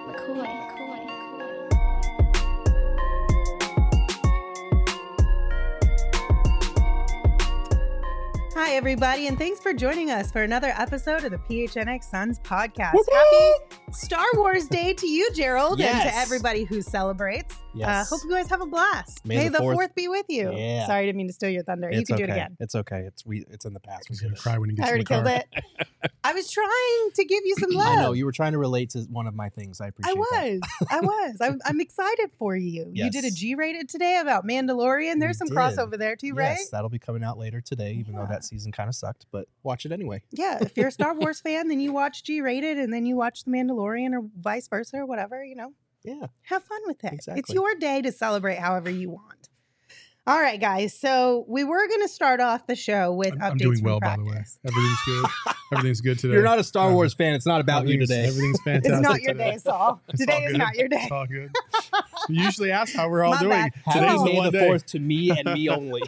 Hi, everybody, and thanks for joining us for another episode of the PHNX Suns podcast. Woo-hoo! Happy Star Wars Day to you, Gerald, and to Yes. everybody who celebrates. Yes. Hope you guys have a blast. May the 4th be with you. Yeah. Sorry, I didn't mean to steal your thunder. You can do it again. It's okay. It's in the past. He's We gonna did it. cry when he gets I already in the car. killed it. I was trying to give you some love. I know you were trying to relate to one of my things. I appreciate that. I'm excited for you. You did a Yes. G-rated today about Mandalorian. There's some We did. crossover there too, right? Yes, that'll be coming out later today, even though Yeah. that season kind of sucked. But watch it anyway. Yeah, if you're a Star Wars fan, then you watch G-rated, and then you watch The Mandalorian, or vice versa, or whatever. Yeah. Have fun with it. Exactly. It's your day to celebrate however you want. All right, guys. So we were going to start off the show with updates I'm doing from well, by the way. practice. Everything's good. Everything's good today. You're not a Star Wars fan. It's not about you Everything's- today. Everything's fantastic. It's not your today. day, Saul. It's Today all is good. not your day. It's all good. You usually ask how we're all My doing. bad. Today's Saul. the May one the day. 4th to me and me only.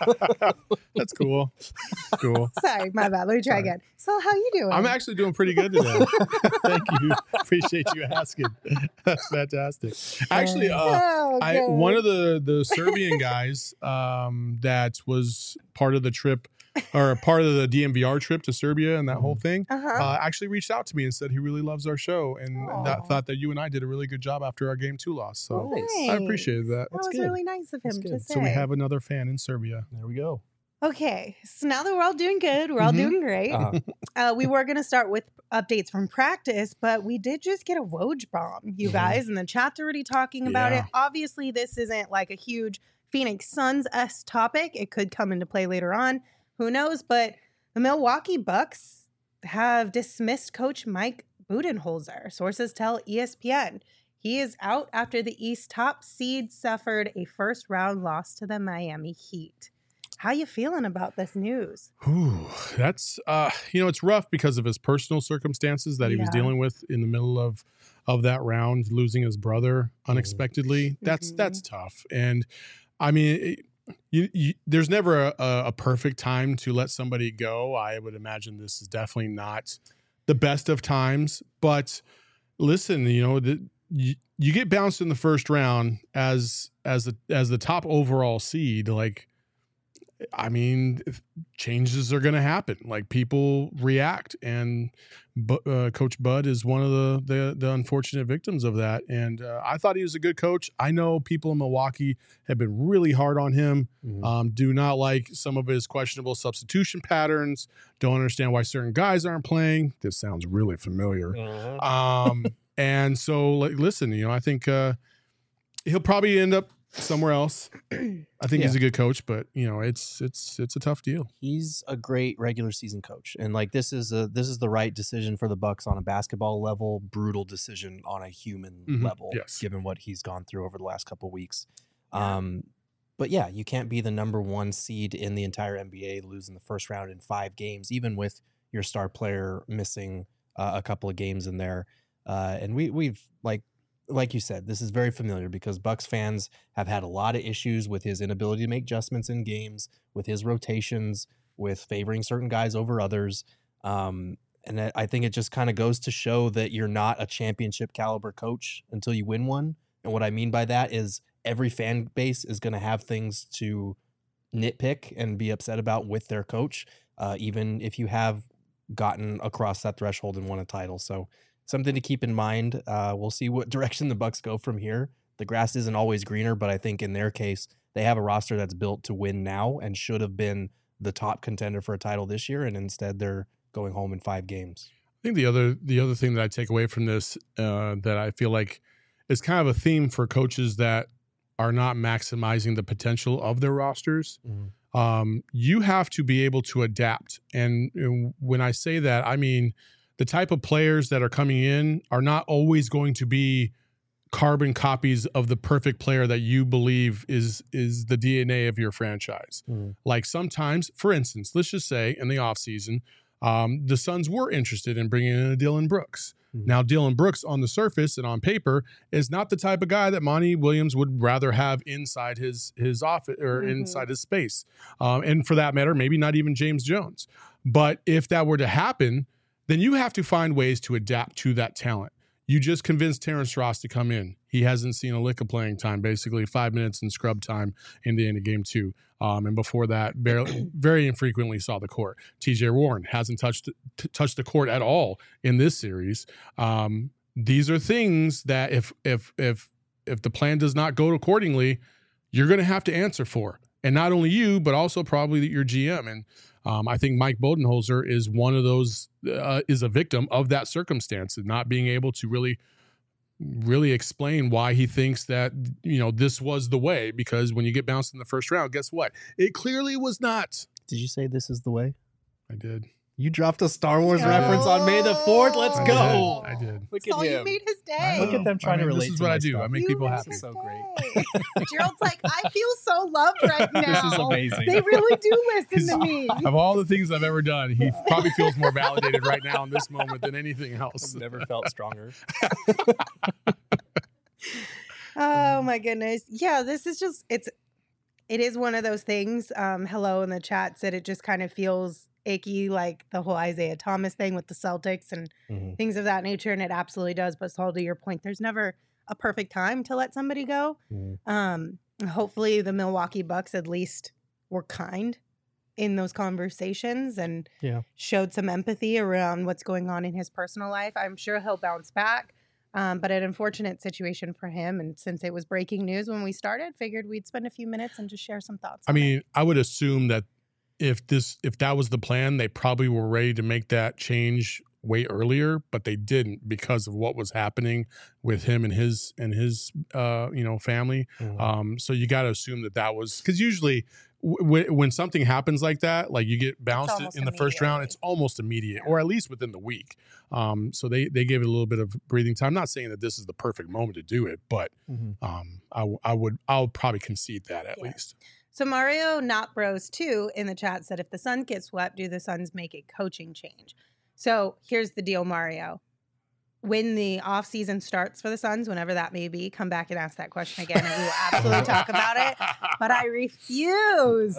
That's cool. Cool. Sorry, my bad. Let me try Sorry. again. So how you doing? I'm actually doing pretty good today. Thank you. Appreciate you asking. That's fantastic. Actually, Oh, good. one of the Serbian guys that was part of the trip, or part of the DMVR trip to Serbia and that whole thing, Uh-huh. actually reached out to me and said he really loves our show and Aw. thought that you and I did a really good job after our Game 2 loss. So Nice. I appreciated that. That was good. really nice of him That's to good. say. So we have another fan in Serbia. There we go. Okay, so now that we're all doing good, we're all Mhm. doing great. Uh-huh. We were going to start with updates from practice, but we did just get a Woj bomb, you Mhm. guys, and the chat's already talking about it. Yeah. Obviously, this isn't like a huge Phoenix Suns-esque topic. It could come into play later on. Who knows? But the Milwaukee Bucks have dismissed coach Mike Budenholzer. Sources tell ESPN. He is out after the East top seed suffered a first-round loss to the Miami Heat. How you feeling about this news? Whew, that's it's rough because of his personal circumstances that he was Yeah. dealing with in the middle of that round, losing his brother unexpectedly. That's tough. And I mean, there's never a perfect time to let somebody go. I would imagine this is definitely not the best of times. But listen, you get bounced in the first round as the top overall seed. Like, I mean, changes are going to happen. Like, people react, and Coach Bud is one of the unfortunate victims of that. And I thought he was a good coach. I know people in Milwaukee have been really hard on him. Mhm. Do not like some of his questionable substitution patterns. Don't understand why certain guys aren't playing. This sounds really familiar. And so, like, listen, I think he'll probably end up somewhere else. I think he's a good coach, but it's a tough deal. He's a great regular season coach, and like this is the right decision for the Bucks on a basketball level, brutal decision on a human Mhm. level, Yes. given what he's gone through over the last couple of weeks. Yeah. But yeah, you can't be the number one seed in the entire NBA, losing the first round in 5 games, even with your star player missing a couple of games in there. And we've like you said, this is very familiar because Bucks fans have had a lot of issues with his inability to make adjustments in games, with his rotations, with favoring certain guys over others. And I think it just kind of goes to show that you're not a championship caliber coach until you win one. And what I mean by that is every fan base is going to have things to nitpick and be upset about with their coach, even if you have gotten across that threshold and won a title. So something to keep in mind. We'll see what direction the Bucks go from here. The grass isn't always greener, but I think in their case, they have a roster that's built to win now and should have been the top contender for a title this year, and instead they're going home in 5 games. I think the other thing that I take away from this that I feel like is kind of a theme for coaches that are not maximizing the potential of their rosters. You have to be able to adapt. And when I say that, I mean the type of players that are coming in are not always going to be carbon copies of the perfect player that you believe is the DNA of your franchise. Like sometimes, for instance, let's just say in the offseason, the Suns were interested in bringing in a Dillon Brooks. Now, Dillon Brooks on the surface and on paper is not the type of guy that Monty Williams would rather have inside his office or inside his space. And for that matter, maybe not even James Jones. But if that were to happen, then you have to find ways to adapt to that talent. You just convinced Terrence Ross to come in. He hasn't seen a lick of playing time, basically 5 minutes in scrub time in the end of game 2. And before that, very infrequently saw the court. TJ Warren hasn't touched the court at all in this series. These are things that if the plan does not go accordingly, you're going to have to answer for. And not only you, but also probably your GM. And I think Mike Budenholzer is one of those, is a victim of that circumstance and not being able to really explain why he thinks that, this was the way. Because when you get bounced in the first round, guess what? It clearly was not. Did you say this is the way? I did. You dropped a Star Wars reference on May the 4th. Let's go. I did. Look at So him. you made his day. Look at them trying to relate. This is to what my I do. stuff. I make You people made happy. his So great. day. Gerald's like, I feel so loved right now. This is amazing. They really do listen to me. Of all the things I've ever done, he probably feels more validated right now in this moment than anything else. I've never felt stronger. Oh my goodness. Yeah, this is just it is one of those things. Hello in the chat said it just kind of feels icky, like the whole Isaiah Thomas thing with the Celtics and things of that nature. And it absolutely does. But Saul, to your point, there's never a perfect time to let somebody go. Hopefully the Milwaukee Bucks at least were kind in those conversations and showed some empathy around what's going on in his personal life. I'm sure he'll bounce back. But an unfortunate situation for him. And since it was breaking news when we started, figured we'd spend a few minutes and just share some thoughts. I mean, I would assume that if that was the plan, they probably were ready to make that change way earlier, but they didn't because of what was happening with him and his family. So you got to assume that was because usually when something happens like that, like you get bounced in the first round, it's almost immediate, or at least within the week. So they gave it a little bit of breathing time. I'm not saying that this is the perfect moment to do it, but I'll probably concede that at least. So Mario Not Bros 2 in the chat said, if the Suns get swept, do the Suns make a coaching change? So here's the deal, Mario. When the offseason starts for the Suns, whenever that may be, come back and ask that question again, and we will absolutely talk about it. But I refuse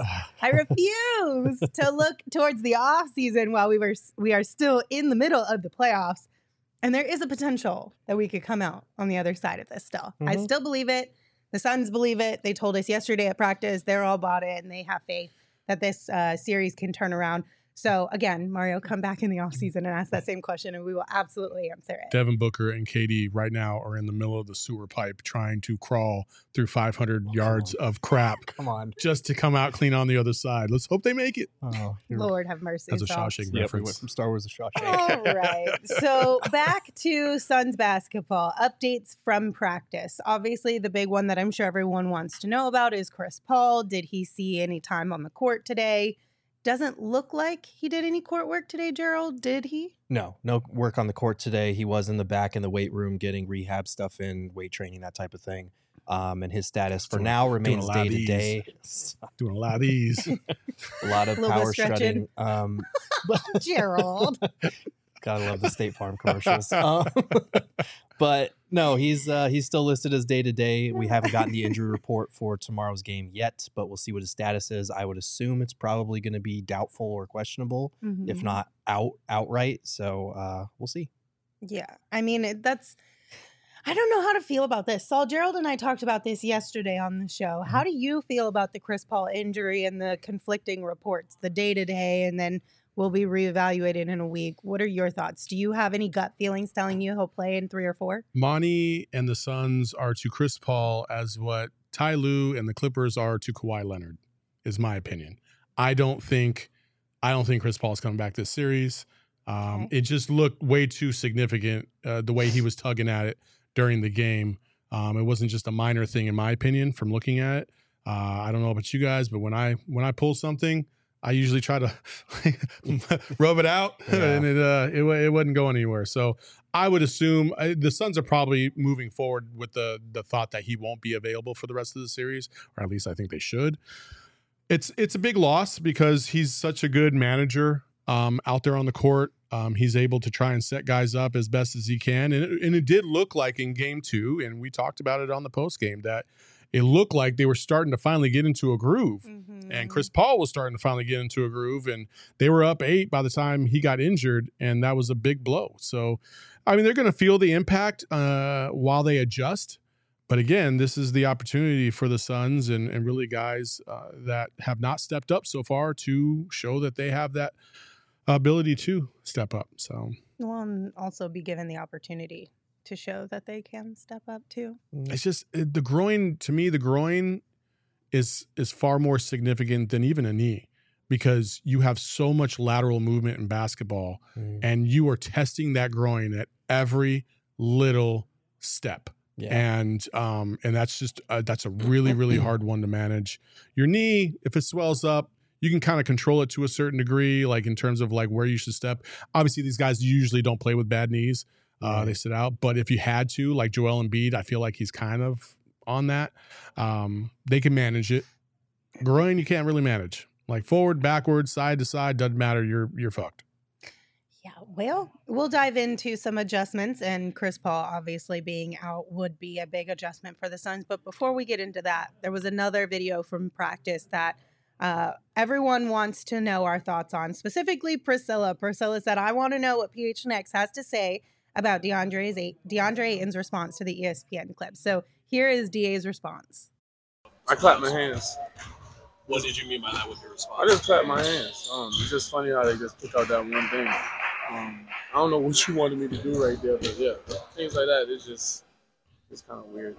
to look towards the offseason while we are still in the middle of the playoffs. And there is a potential that we could come out on the other side of this still. I still believe it. The Suns believe it. They told us yesterday at practice, they're all bought it, and they have faith that this series can turn around. So, again, Mario, come back in the offseason and ask that same question, and we will absolutely answer it. Devin Booker and KD right now are in the middle of the sewer pipe trying to crawl through 500 yards of crap. Come on. Just to come out clean on the other side. Let's hope they make it. Oh, Lord have mercy. That's a Shawshank reference. We went from Star Wars to Shawshank. All right. So back to Suns basketball. Updates from practice. Obviously, the big one that I'm sure everyone wants to know about is Chris Paul. Did he see any time on the court today? Doesn't look like he did any court work today, Gerald. Did he? No work on the court today. He was in the back in the weight room getting rehab stuff in, weight training, that type of thing. And his status for now remains day to day. Doing a lot of these. A lot of power shredding. Gerald. Gotta love the State Farm commercials. But no, he's still listed as day to day. We haven't gotten the injury report for tomorrow's game yet, but we'll see what his status is. I would assume it's probably going to be doubtful or questionable, if not outright. So we'll see. Yeah, I mean I don't know how to feel about this. Saul, Gerald and I talked about this yesterday on the show. How do you feel about the Chris Paul injury and the conflicting reports, the day to day, and then will be reevaluated in a week? What are your thoughts? Do you have any gut feelings telling you he'll play in 3 or 4? Monty and the Suns are to Chris Paul as what Ty Lue and the Clippers are to Kawhi Leonard, is my opinion. I don't think Chris Paul is coming back this series. It just looked way too significant the way he was tugging at it during the game. It wasn't just a minor thing, in my opinion, from looking at it. I don't know about you guys, but when I pull something, I usually try to rub it out, and it wasn't going anywhere. So I would assume the Suns are probably moving forward with the thought that he won't be available for the rest of the series, or at least I think they should. It's a big loss because he's such a good manager out there on the court. He's able to try and set guys up as best as he can, and it did look like in game 2, and we talked about it on the post game, that it looked like they were starting to finally get into a groove. Mm-hmm. And Chris Paul was starting to finally get into a groove, and they were up 8 by the time he got injured, and that was a big blow. So, I mean, they're going to feel the impact while they adjust. But again, this is the opportunity for the Suns and really guys that have not stepped up so far to show that they have that ability to step up. So, well, and also be given the opportunity to show that they can step up too. It's just the groin. To me, the groin is far more significant than even a knee, because you have so much lateral movement in basketball, and you are testing that groin at every little step. Yeah. And that's just that's a really, really hard one to manage. Your knee, if it swells up, you can kind of control it to a certain degree, like in terms of like where you should step. Obviously, these guys usually don't play with bad knees. They sit out. But if you had to, like Joel Embiid, I feel like he's kind of on that. They can manage it. Groin, you can't really manage. Like forward, backward, side to side, doesn't matter. You're fucked. Yeah, well, we'll dive into some adjustments, and Chris Paul obviously being out would be a big adjustment for the Suns. But before we get into that, there was another video from practice that everyone wants to know our thoughts on, specifically Priscilla. Priscilla said, I want to know what PHNX has to say about DeAndre Ayton's response to the ESPN clip. So here is DA's response. I clapped my hands. What did you mean by that with your response? I just clapped my hands. It's just funny how they just pick out that one thing. I don't know what you wanted me to do right there, but yeah, things like that, it's kind of weird.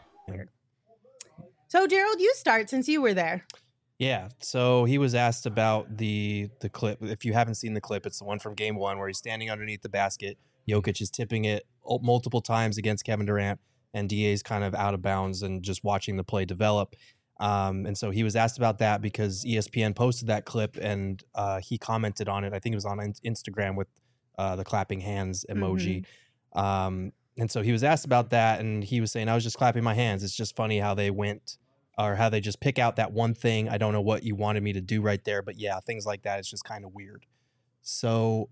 So Gerald, you start since you were there. Yeah, so he was asked about the clip. If you haven't seen the clip, it's the one from Game 1 where he's standing underneath the basket. Jokic is tipping it multiple times against Kevin Durant, and DA's kind of out of bounds and just watching the play develop. And so he was asked about that because ESPN posted that clip, and he commented on it. I think it was on Instagram with the clapping hands emoji. Mm-hmm. And so he was asked about that, and he was saying, I was just clapping my hands. It's just funny how they went, or how they just pick out that one thing. I don't know what you wanted me to do right there, but yeah, things like that. It's just kind of weird. So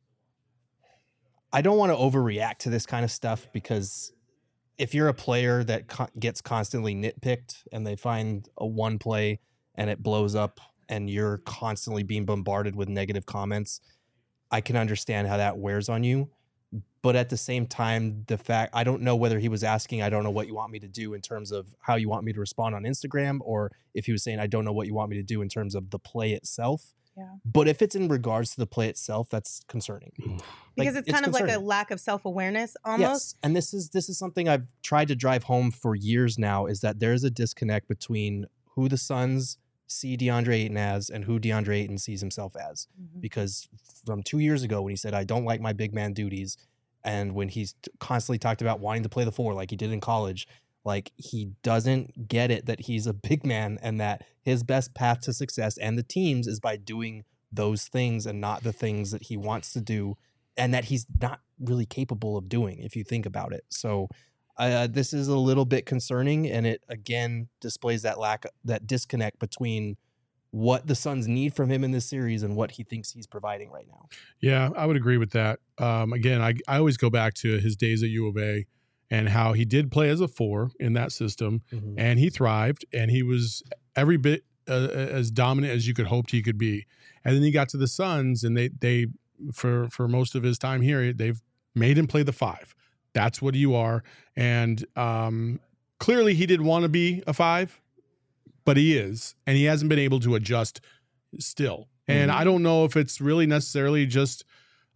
I don't want to overreact to this kind of stuff, because if you're a player that gets constantly nitpicked and they find a one play and it blows up and you're constantly being bombarded with negative comments, I can understand how that wears on you. But at the same time, I don't know whether he was asking, I don't know what you want me to do in terms of how you want me to respond on Instagram, or if he was saying, I don't know what you want me to do in terms of the play itself. Yeah. But if it's in regards to the play itself, that's concerning. Because it's kind of like a lack of self-awareness almost. Yes. And this is something I've tried to drive home for years now, is that there's a disconnect between who the Suns see DeAndre Ayton as and who DeAndre Ayton sees himself as. Mm-hmm. Because from 2 years ago when he said, I don't like my big man duties, and when he's constantly talked about wanting to play the 4 like he did in college, like he doesn't get it that he's a big man and that his best path to success and the team's is by doing those things and not the things that he wants to do, and that he's not really capable of doing if you think about it. So this is a little bit concerning, and it again displays that disconnect between what the Suns need from him in this series and what he thinks he's providing right now. Yeah, I would agree with that. Again, I always go back to his days at U of A and how he did play as a 4 in that system, mm-hmm. and he thrived, and he was every bit as dominant as you could hoped he could be. And then he got to the Suns, and they for most of his time here, they've made him play the 5. That's what you are. And clearly he didn't want to be a 5, but he is, and he hasn't been able to adjust still. And I don't know if it's really necessarily just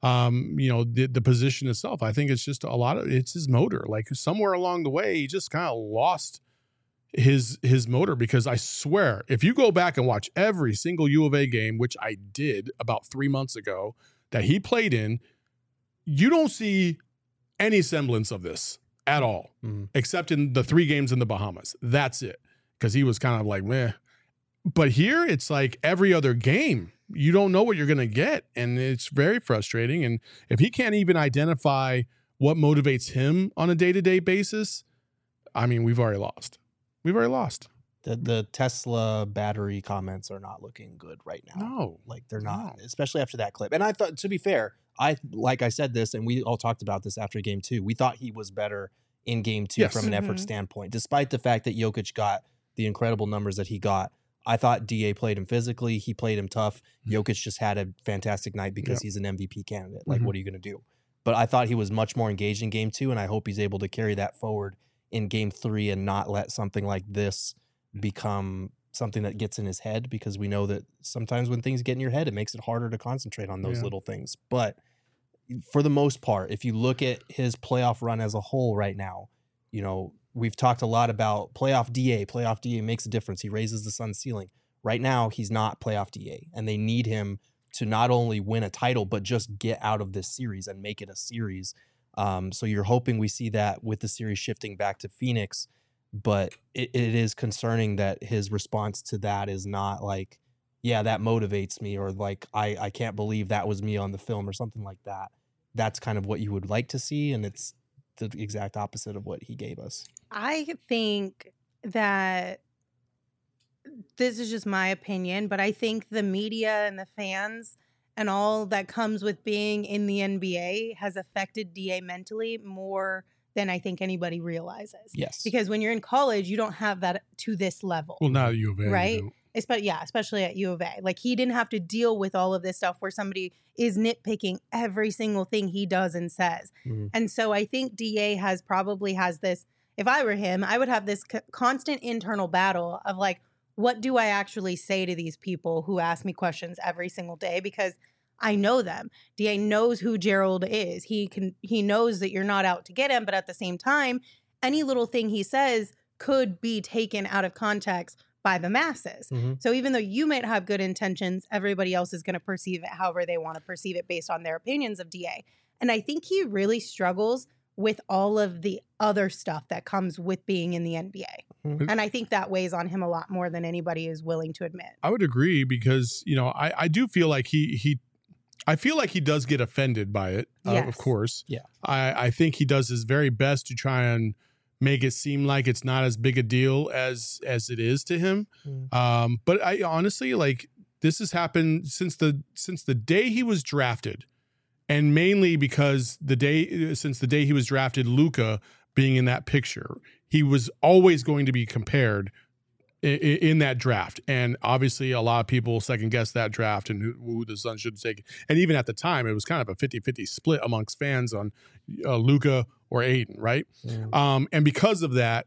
the position itself. I think it's just it's his motor. Like somewhere along the way, he just kind of lost his motor, because I swear, if you go back and watch every single U of A game, which I did about 3 months ago, that he played in, you don't see any semblance of this at all, except in the 3 games in the Bahamas. That's it. Because he was kind of like, meh. But here, it's like every other game. You don't know what you're going to get, and it's very frustrating. And if he can't even identify what motivates him on a day-to-day basis, I mean, we've already lost. We've already lost. The Tesla battery comments are not looking good right now. No. Like, they're not, especially after that clip. And I thought, to be fair, like I said this, and we all talked about this after game 2, we thought he was better in game 2 Yes. from an effort standpoint, despite the fact that Jokic got the incredible numbers that he got. I thought DA played him physically. He played him tough. Jokic just had a fantastic night because he's an MVP candidate. Like, what are you going to do? But I thought he was much more engaged in game 2, and I hope he's able to carry that forward in game 3 and not let something like this become something that gets in his head, because we know that sometimes when things get in your head, it makes it harder to concentrate on those little things. But for the most part, if you look at his playoff run as a whole right now, you know, we've talked a lot about playoff DA. Playoff DA makes a difference. He raises the Suns' ceiling. Right now, he's not playoff DA, and they need him to not only win a title, but just get out of this series and make it a series. So you're hoping we see that with the series shifting back to Phoenix, but it is concerning that his response to that is not like, yeah, that motivates me, or like, I can't believe that was me on the film or something like that. That's kind of what you would like to see, and it's the exact opposite of what he gave us. I think that this is just my opinion, but I think the media and the fans and all that comes with being in the NBA has affected DA mentally more than I think anybody realizes. Yes. Because when you're in college, you don't have that to this level. Well, not at U of A, right? you don't. Especially at U of A. Like, he didn't have to deal with all of this stuff where somebody is nitpicking every single thing he does and says. And so I think DA probably has this, if I were him, I would have this constant internal battle of like, what do I actually say to these people who ask me questions every single day? Because I know them. DA knows who Gerald is. He knows that you're not out to get him, but at the same time, any little thing he says could be taken out of context by the masses. So even though you might have good intentions, everybody else is going to perceive it however they want to perceive it based on their opinions of DA. And I think he really struggles with all of the other stuff that comes with being in the NBA. And I think that weighs on him a lot more than anybody is willing to admit. I would agree, because, you know, I do feel like I feel like he does get offended by it, Yes. of course. Yeah. I think he does his very best to try and make it seem like it's not as big a deal as it is to him. But I honestly, like, this has happened since the day he was drafted, and mainly because since the day he was drafted, Luka being in that picture, he was always going to be compared in that draft. And obviously a lot of people second guess that draft and who the Suns should take. And even at the time, it was kind of a 50-50 split amongst fans on Luka or Aiden, right? And because of that,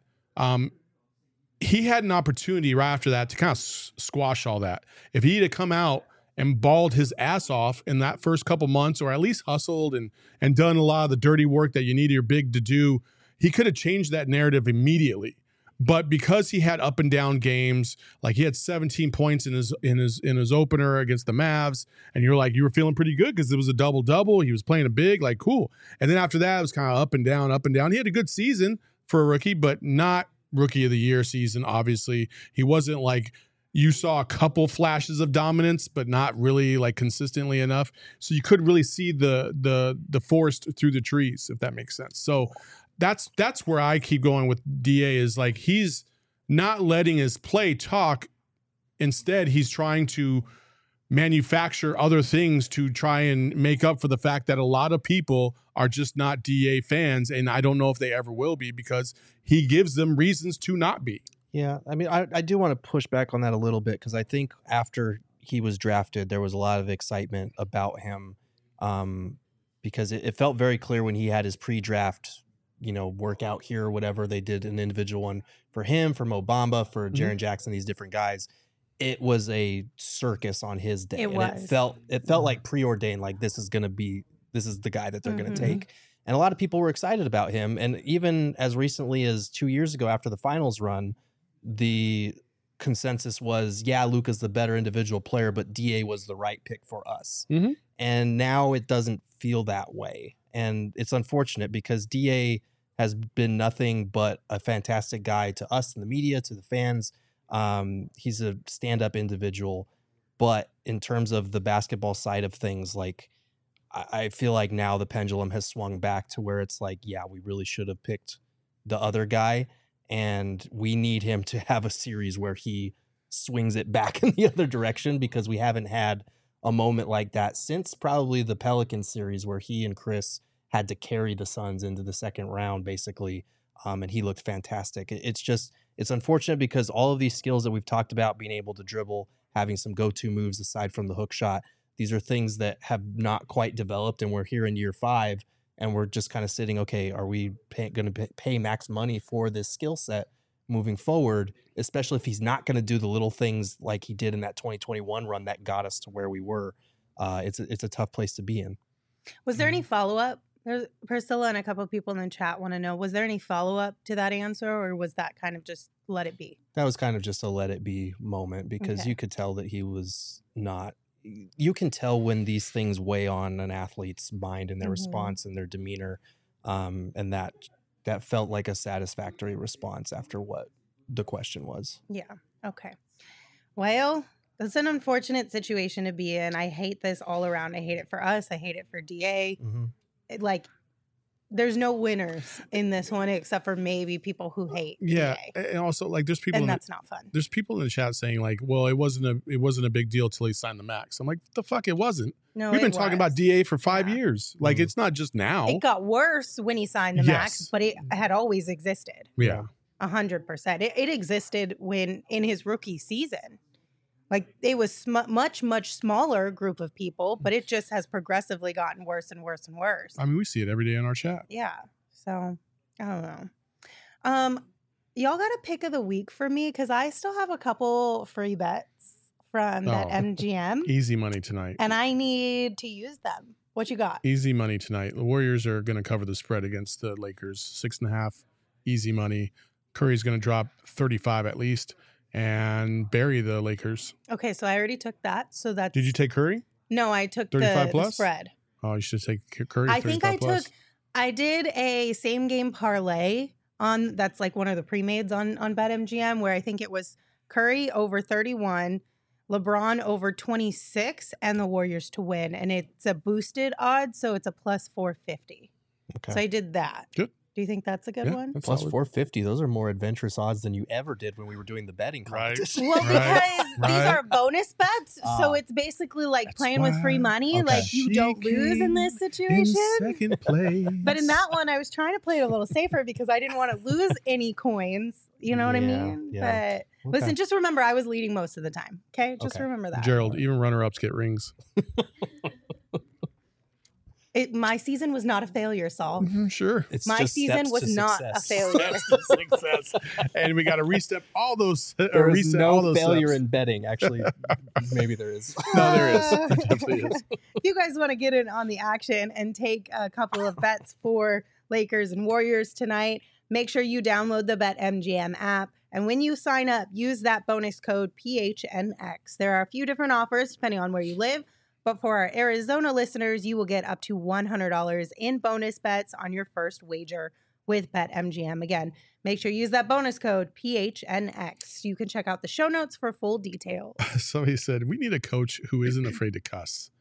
he had an opportunity right after that to kind of squash all that. If he had come out and balled his ass off in that first couple months, or at least hustled and done a lot of the dirty work that you need your big to do, he could have changed that narrative immediately. But because he had up and down games, like he had 17 points in his opener against the Mavs, and you were feeling pretty good because it was a double-double. He was playing a big, like, cool. And then after that, it was kind of up and down, up and down. He had a good season for a rookie, but not rookie of the year season, obviously. He wasn't like, you saw a couple flashes of dominance, but not really like consistently enough. So you couldn't really see the forest through the trees, if that makes sense. So that's where I keep going with DA, is like, he's not letting his play talk. Instead, he's trying to manufacture other things to try and make up for the fact that a lot of people are just not DA fans. And I don't know if they ever will be, because he gives them reasons to not be. Yeah, I mean, I do want to push back on that a little bit, because I think after he was drafted, there was a lot of excitement about him, because it felt very clear when he had his pre-draft, workout here or whatever. They did an individual one for him, for Mo Bamba, for Jaren Jackson, these different guys. It was a circus on his day. It felt like preordained, like this is the guy that they're going to take. And a lot of people were excited about him. And even as recently as 2 years ago, after the finals run, the consensus was, yeah, Luka's the better individual player, but DA was the right pick for us. And now it doesn't feel that way. And it's unfortunate, because DA has been nothing but a fantastic guy to us in the media, to the fans. He's a stand-up individual. But in terms of the basketball side of things, like, I feel like now the pendulum has swung back to where it's like, yeah, we really should have picked the other guy. And we need him to have a series where he swings it back in the other direction, because we haven't had a moment like that since probably the Pelicans series, where he and Chris had to carry the Suns into the second round, basically, and he looked fantastic. It's unfortunate because all of these skills that we've talked about, being able to dribble, having some go-to moves aside from the hook shot, these are things that have not quite developed, and we're here in year 5, and we're just kind of sitting, okay, are we going to pay max money for this skill set moving forward, especially if he's not going to do the little things like he did in that 2021 run that got us to where we were. It's a tough place to be in. Was there any follow-up? Priscilla and a couple of people in the chat want to know, was there any follow-up to that answer, or was that kind of just let it be? That was kind of just a let it be moment, because you could tell that he was not. You can tell when these things weigh on an athlete's mind and their response and their demeanor, and that felt like a satisfactory response after what the question was. Yeah. Okay. Well, that's an unfortunate situation to be in. I hate this all around. I hate it for us. I hate it for DA. Like, there's no winners in this one except for maybe people who hate. Yeah, DA. and also like there's people, and that's not fun. There's people in the chat saying like, well, it wasn't a big deal till he signed the max. I'm like, the fuck, it wasn't. No, we've been talking about DA for 5 years. Like, it's not just now. It got worse when he signed the max, but it had always existed. Yeah, 100%. It existed when in his rookie season. Like, it was much smaller group of people, but it just has progressively gotten worse and worse and worse. I mean, we see it every day in our chat. Yeah. So, I don't know. Y'all got a pick of the week for me, because I still have a couple free bets from that MGM. Easy money tonight. And I need to use them. What you got? Easy money tonight. The Warriors are going to cover the spread against the Lakers. 6.5. Easy money. Curry's going to drop 35 at least and bury the Lakers. Okay, so I already took that. So that's. Did you take Curry? No, I took 35 plus? The spread. Oh, you should take Curry. I think I plus. I did a same game parlay on, that's like one of the pre-mades on BetMGM, where I think it was Curry over 31, LeBron over 26, and the Warriors to win. And it's a boosted odds, so it's a plus 450. Okay. So I did that. Good. Do you think that's a good one? Plus solid. 450. Those are more adventurous odds than you ever did when we were doing the betting competition. Well, because these are bonus bets, so it's basically like playing with free money. Okay. Like, you don't lose in this situation. In second place. But in that one, I was trying to play it a little safer because I didn't want to lose any coins. You know what I mean? Yeah. But listen, just remember, I was leading most of the time. Okay? Just remember that. Gerald, even runner-ups get rings. My season was not a failure, Saul. Sure. My season was not a failure. Success. And we got to restep all those. There is no failure steps. In betting. Actually, maybe there is. No, there is. There definitely is. If you guys want to get in on the action and take a couple of bets for Lakers and Warriors tonight, make sure you download the BetMGM app. And when you sign up, use that bonus code PHNX. There are a few different offers depending on where you live. But for our Arizona listeners, you will get up to $100 in bonus bets on your first wager with BetMGM. Again, make sure you use that bonus code PHNX. You can check out the show notes for full details. Somebody said, we need a coach who isn't afraid to cuss.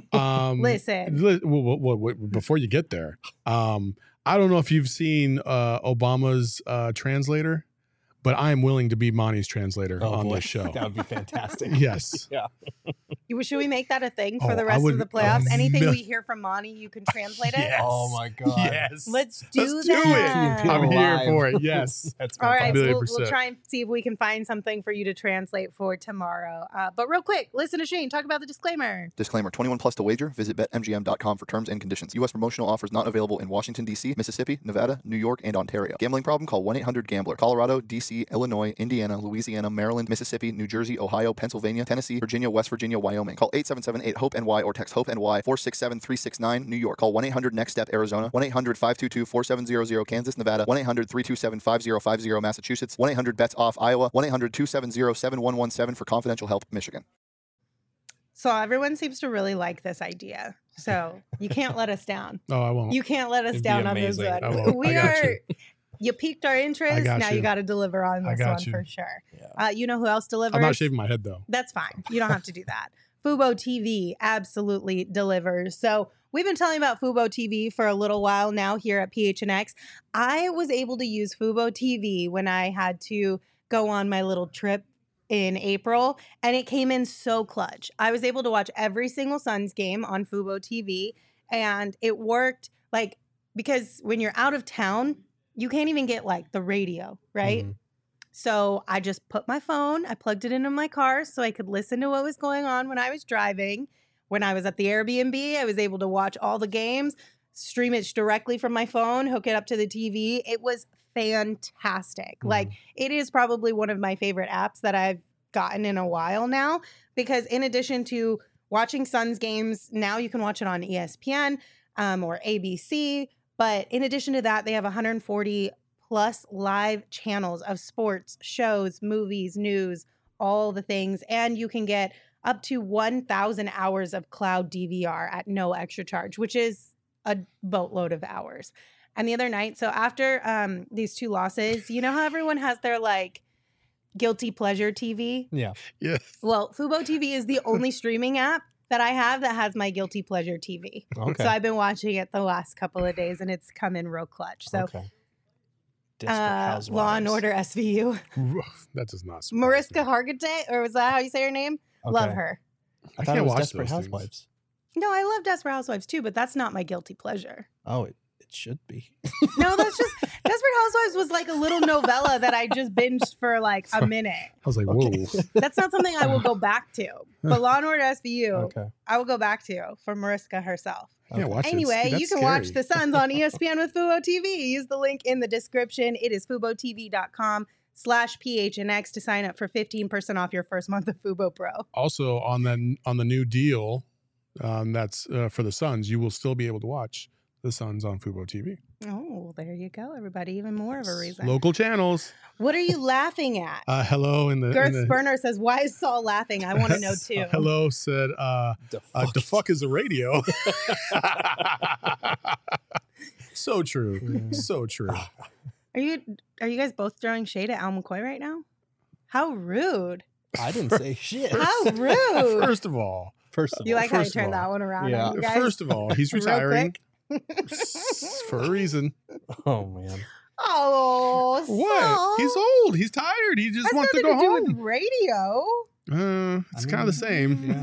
Listen. Before you get there, I don't know if you've seen Obama's translator, but I am willing to be Monty's translator on this show. That would be fantastic. Yes. Yeah. Should we make that a thing for the rest of the playoffs? Anything we hear from Monty, you can translate it? Yes. Oh, my God. Yes. Let's do that. I'm here for it. Yes. That's all right. We'll try and see if we can find something for you to translate for tomorrow. But real quick, listen to Shane talk about the disclaimer. Disclaimer, 21 plus to wager. Visit BetMGM.com for terms and conditions. U.S. promotional offers not available in Washington, D.C., Mississippi, Nevada, New York, and Ontario. Gambling problem? Call 1-800-GAMBLER. Colorado, D.C., Illinois, Indiana, Louisiana, Maryland, Mississippi, New Jersey, Ohio, Pennsylvania, Tennessee, Virginia, West Virginia, Wyoming. Call 877-8-HOPE-NY or text HOPE-NY 467-369, New York. Call 1-800-NEXT-STEP, Arizona. 1-800-522-4700, Kansas, Nevada. 1-800-327-5050, Massachusetts. 1-800-BETS-OFF, Iowa. 1-800-270-7117 for confidential help, Michigan. So everyone seems to really like this idea. So you can't let us down. No, I won't. You can't let us down on this one. I won't. We are... You piqued our interest. Now you got to deliver on this one for sure. Yeah. You know who else delivers? I'm not shaving my head, though. That's fine. You don't have to do that. Fubo TV absolutely delivers. So we've been telling about Fubo TV for a little while now here at PHNX. I was able to use Fubo TV when I had to go on my little trip in April, and it came in so clutch. I was able to watch every single Suns game on Fubo TV, and it worked because when you're out of town, you can't even get like the radio, right? Mhm. So I just put my phone, I plugged it into my car so I could listen to what was going on when I was driving. When I was at the Airbnb, I was able to watch all the games, stream it directly from my phone, hook it up to the TV. It was fantastic. Like, it is probably one of my favorite apps that I've gotten in a while now, because in addition to watching Suns games, now you can watch it on ESPN or ABC. But in addition to that, they have 140 plus live channels of sports, shows, movies, news, all the things. And you can get up to 1,000 hours of cloud DVR at no extra charge, which is a boatload of hours. And the other night, so after these 2 losses, you know how everyone has their like guilty pleasure TV? Yeah. Yeah. Well, Fubo TV is the only streaming app that I have that has my guilty pleasure TV. Okay. So I've been watching it the last couple of days, and it's come in real clutch. So okay. Desperate Housewives. Law and Order SVU. That does not surprise Mariska me. Hargitay, or was that how you say her name? Love Okay. her. I I thought can't it was watch Desperate those things. Housewives. No, I love Desperate Housewives too, but that's not my guilty pleasure. Oh, it should be. No, that's just Desperate Housewives was like a little novella that I just binged for like a minute. I was like, whoa. That's not something I will go back to. But Law and Order SVU, Okay. I will go back to for Mariska herself. Yeah, watch it. Anyway, That's you can watch scary. the Suns on ESPN with Fubo TV. Use the link in the description. It is FuboTV.com/PHNX to sign up for 15% off your first month of Fubo Pro. Also on the new deal, that's for the Suns, you will still be able to watch the Suns on Fubo TV. Oh, there you go, everybody. Even more of a reason. Local channels. What are you laughing at? Hello in the Girth in the, Burner says, why is Saul laughing? I want to know too. Hello said the fuck is a radio. So true. So true. Are you guys both throwing shade at Al McCoy right now? How rude. I didn't say shit. How rude. First of all, You like how I first of turned all, that one around yeah. on you guys? First of all, he's Real retiring quick. for a reason. Oh man. Oh, What? Saul. He's old. He's tired. He just Has wants to nothing go do home. with radio. It's kind of the same.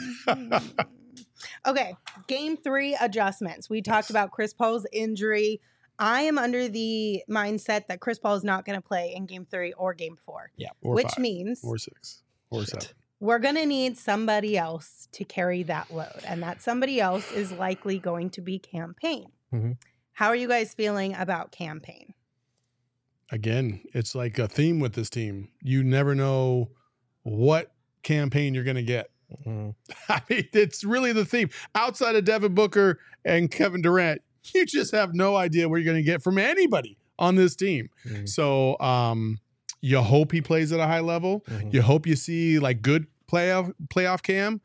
Okay, game 3 adjustments. We talked about Chris Paul's injury. I am under the mindset that Chris Paul is not going to play in game 3 or game 4, Or which 5, means or 6, or 7. we're going to need somebody else to carry that load. And that somebody else is likely going to be Campaign. Mhm. How are you guys feeling about Campaign? Again, it's like a theme with this team. You never know what Campaign you're going to get. Mhm. I mean, it's really the theme. Outside of Devin Booker and Kevin Durant, you just have no idea what you're going to get from anybody on this team. Mhm. So you hope he plays at a high level. Mhm. You hope you see like good playoff Cam,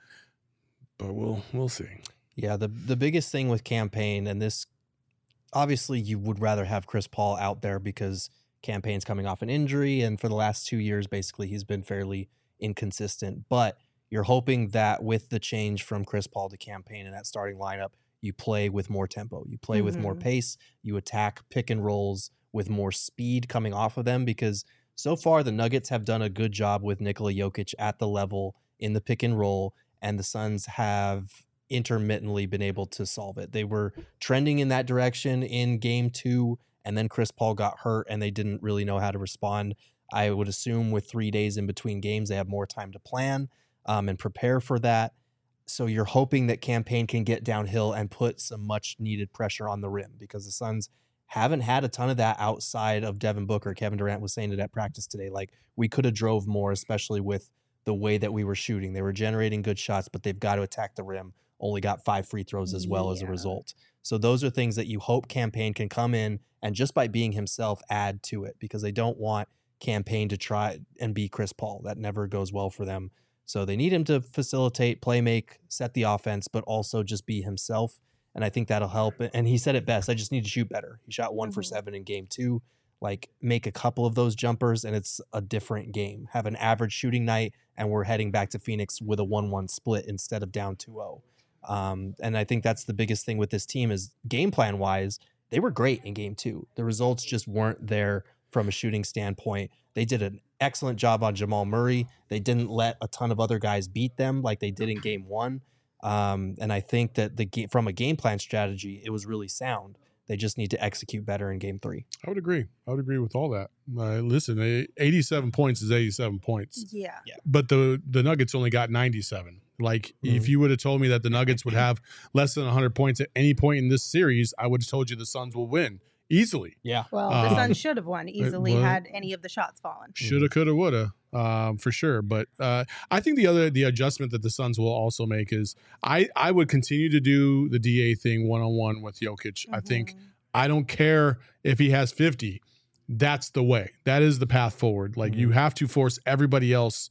but we'll see. Yeah, the biggest thing with Campaign, and this obviously you would rather have Chris Paul out there because Campaign's coming off an injury, and for the last 2 years, basically, he's been fairly inconsistent. But you're hoping that with the change from Chris Paul to Campaign in that starting lineup, you play with more tempo, you play with more pace, you attack pick and rolls with more speed coming off of them, because so far the Nuggets have done a good job with Nikola Jokic at the level in the pick and roll, and the Suns have intermittently been able to solve it. They were trending in that direction in game 2, and then Chris Paul got hurt and they didn't really know how to respond. I would assume with 3 days in between games, they have more time to plan and prepare for that. So you're hoping that Campaign can get downhill and put some much needed pressure on the rim, because the Suns haven't had a ton of that outside of Devin Booker. Kevin Durant was saying it at practice today. Like, we could have drove more, especially with the way that we were shooting. They were generating good shots, but they've got to attack the rim. Only got 5 free throws as well as a result. So those are things that you hope Campaign can come in and just by being himself add to it, because they don't want Campaign to try and be Chris Paul. That never goes well for them. So they need him to facilitate, play make, set the offense, but also just be himself. And I think that'll help. And he said it best, I just need to shoot better. He shot 1 for 7 in game 2. Like, make a couple of those jumpers and it's a different game. Have an average shooting night and we're heading back to Phoenix with a 1-1 split instead of down 2-0. And I think that's the biggest thing with this team is game plan wise, they were great in game 2. The results just weren't there from a shooting standpoint. They did an excellent job on Jamal Murray. They didn't let a ton of other guys beat them like they did in game 1. And I think that from a game plan strategy, it was really sound. They just need to execute better in game 3. I would agree. I would agree with all that. Listen, 87 points is 87 points. Yeah. But the Nuggets only got 97. Like, if you would have told me that the Nuggets would have less than 100 points at any point in this series, I would have told you the Suns will win easily. Yeah. Well, the Suns should have won easily had any of the shots fallen. Shoulda, coulda, woulda, for sure. But I think the adjustment that the Suns will also make is I would continue to do the DA thing one-on-one with Jokic. I think I don't care if he has 50. That's the way. That is the path forward. Like, you have to force everybody else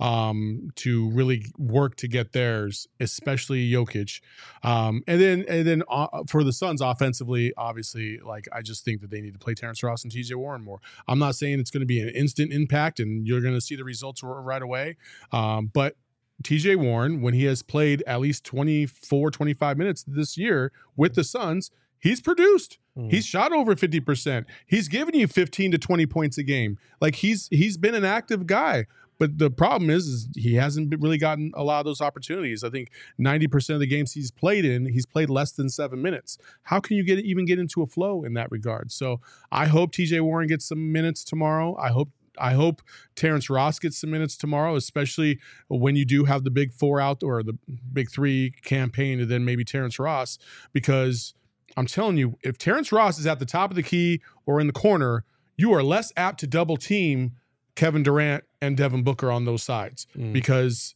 to really work to get theirs, especially Jokic. And then for the Suns offensively, obviously, like, I just think that they need to play Terrence Ross and TJ Warren more. I'm not saying it's going to be an instant impact and you're going to see the results right away. But TJ Warren, when he has played at least 24, 25 minutes this year with the Suns, he's produced. He's shot over 50%. He's given you 15 to 20 points a game. Like, he's been an active guy. But the problem is he hasn't really gotten a lot of those opportunities. I think 90% of the games he's played less than 7 minutes. How can you even get into a flow in that regard? So I hope TJ Warren gets some minutes tomorrow. I hope Terrence Ross gets some minutes tomorrow, especially when you do have the big 4 out or the big 3 campaign and then maybe Terrence Ross, because I'm telling you, if Terrence Ross is at the top of the key or in the corner, you are less apt to double team Kevin Durant and Devin Booker on those sides because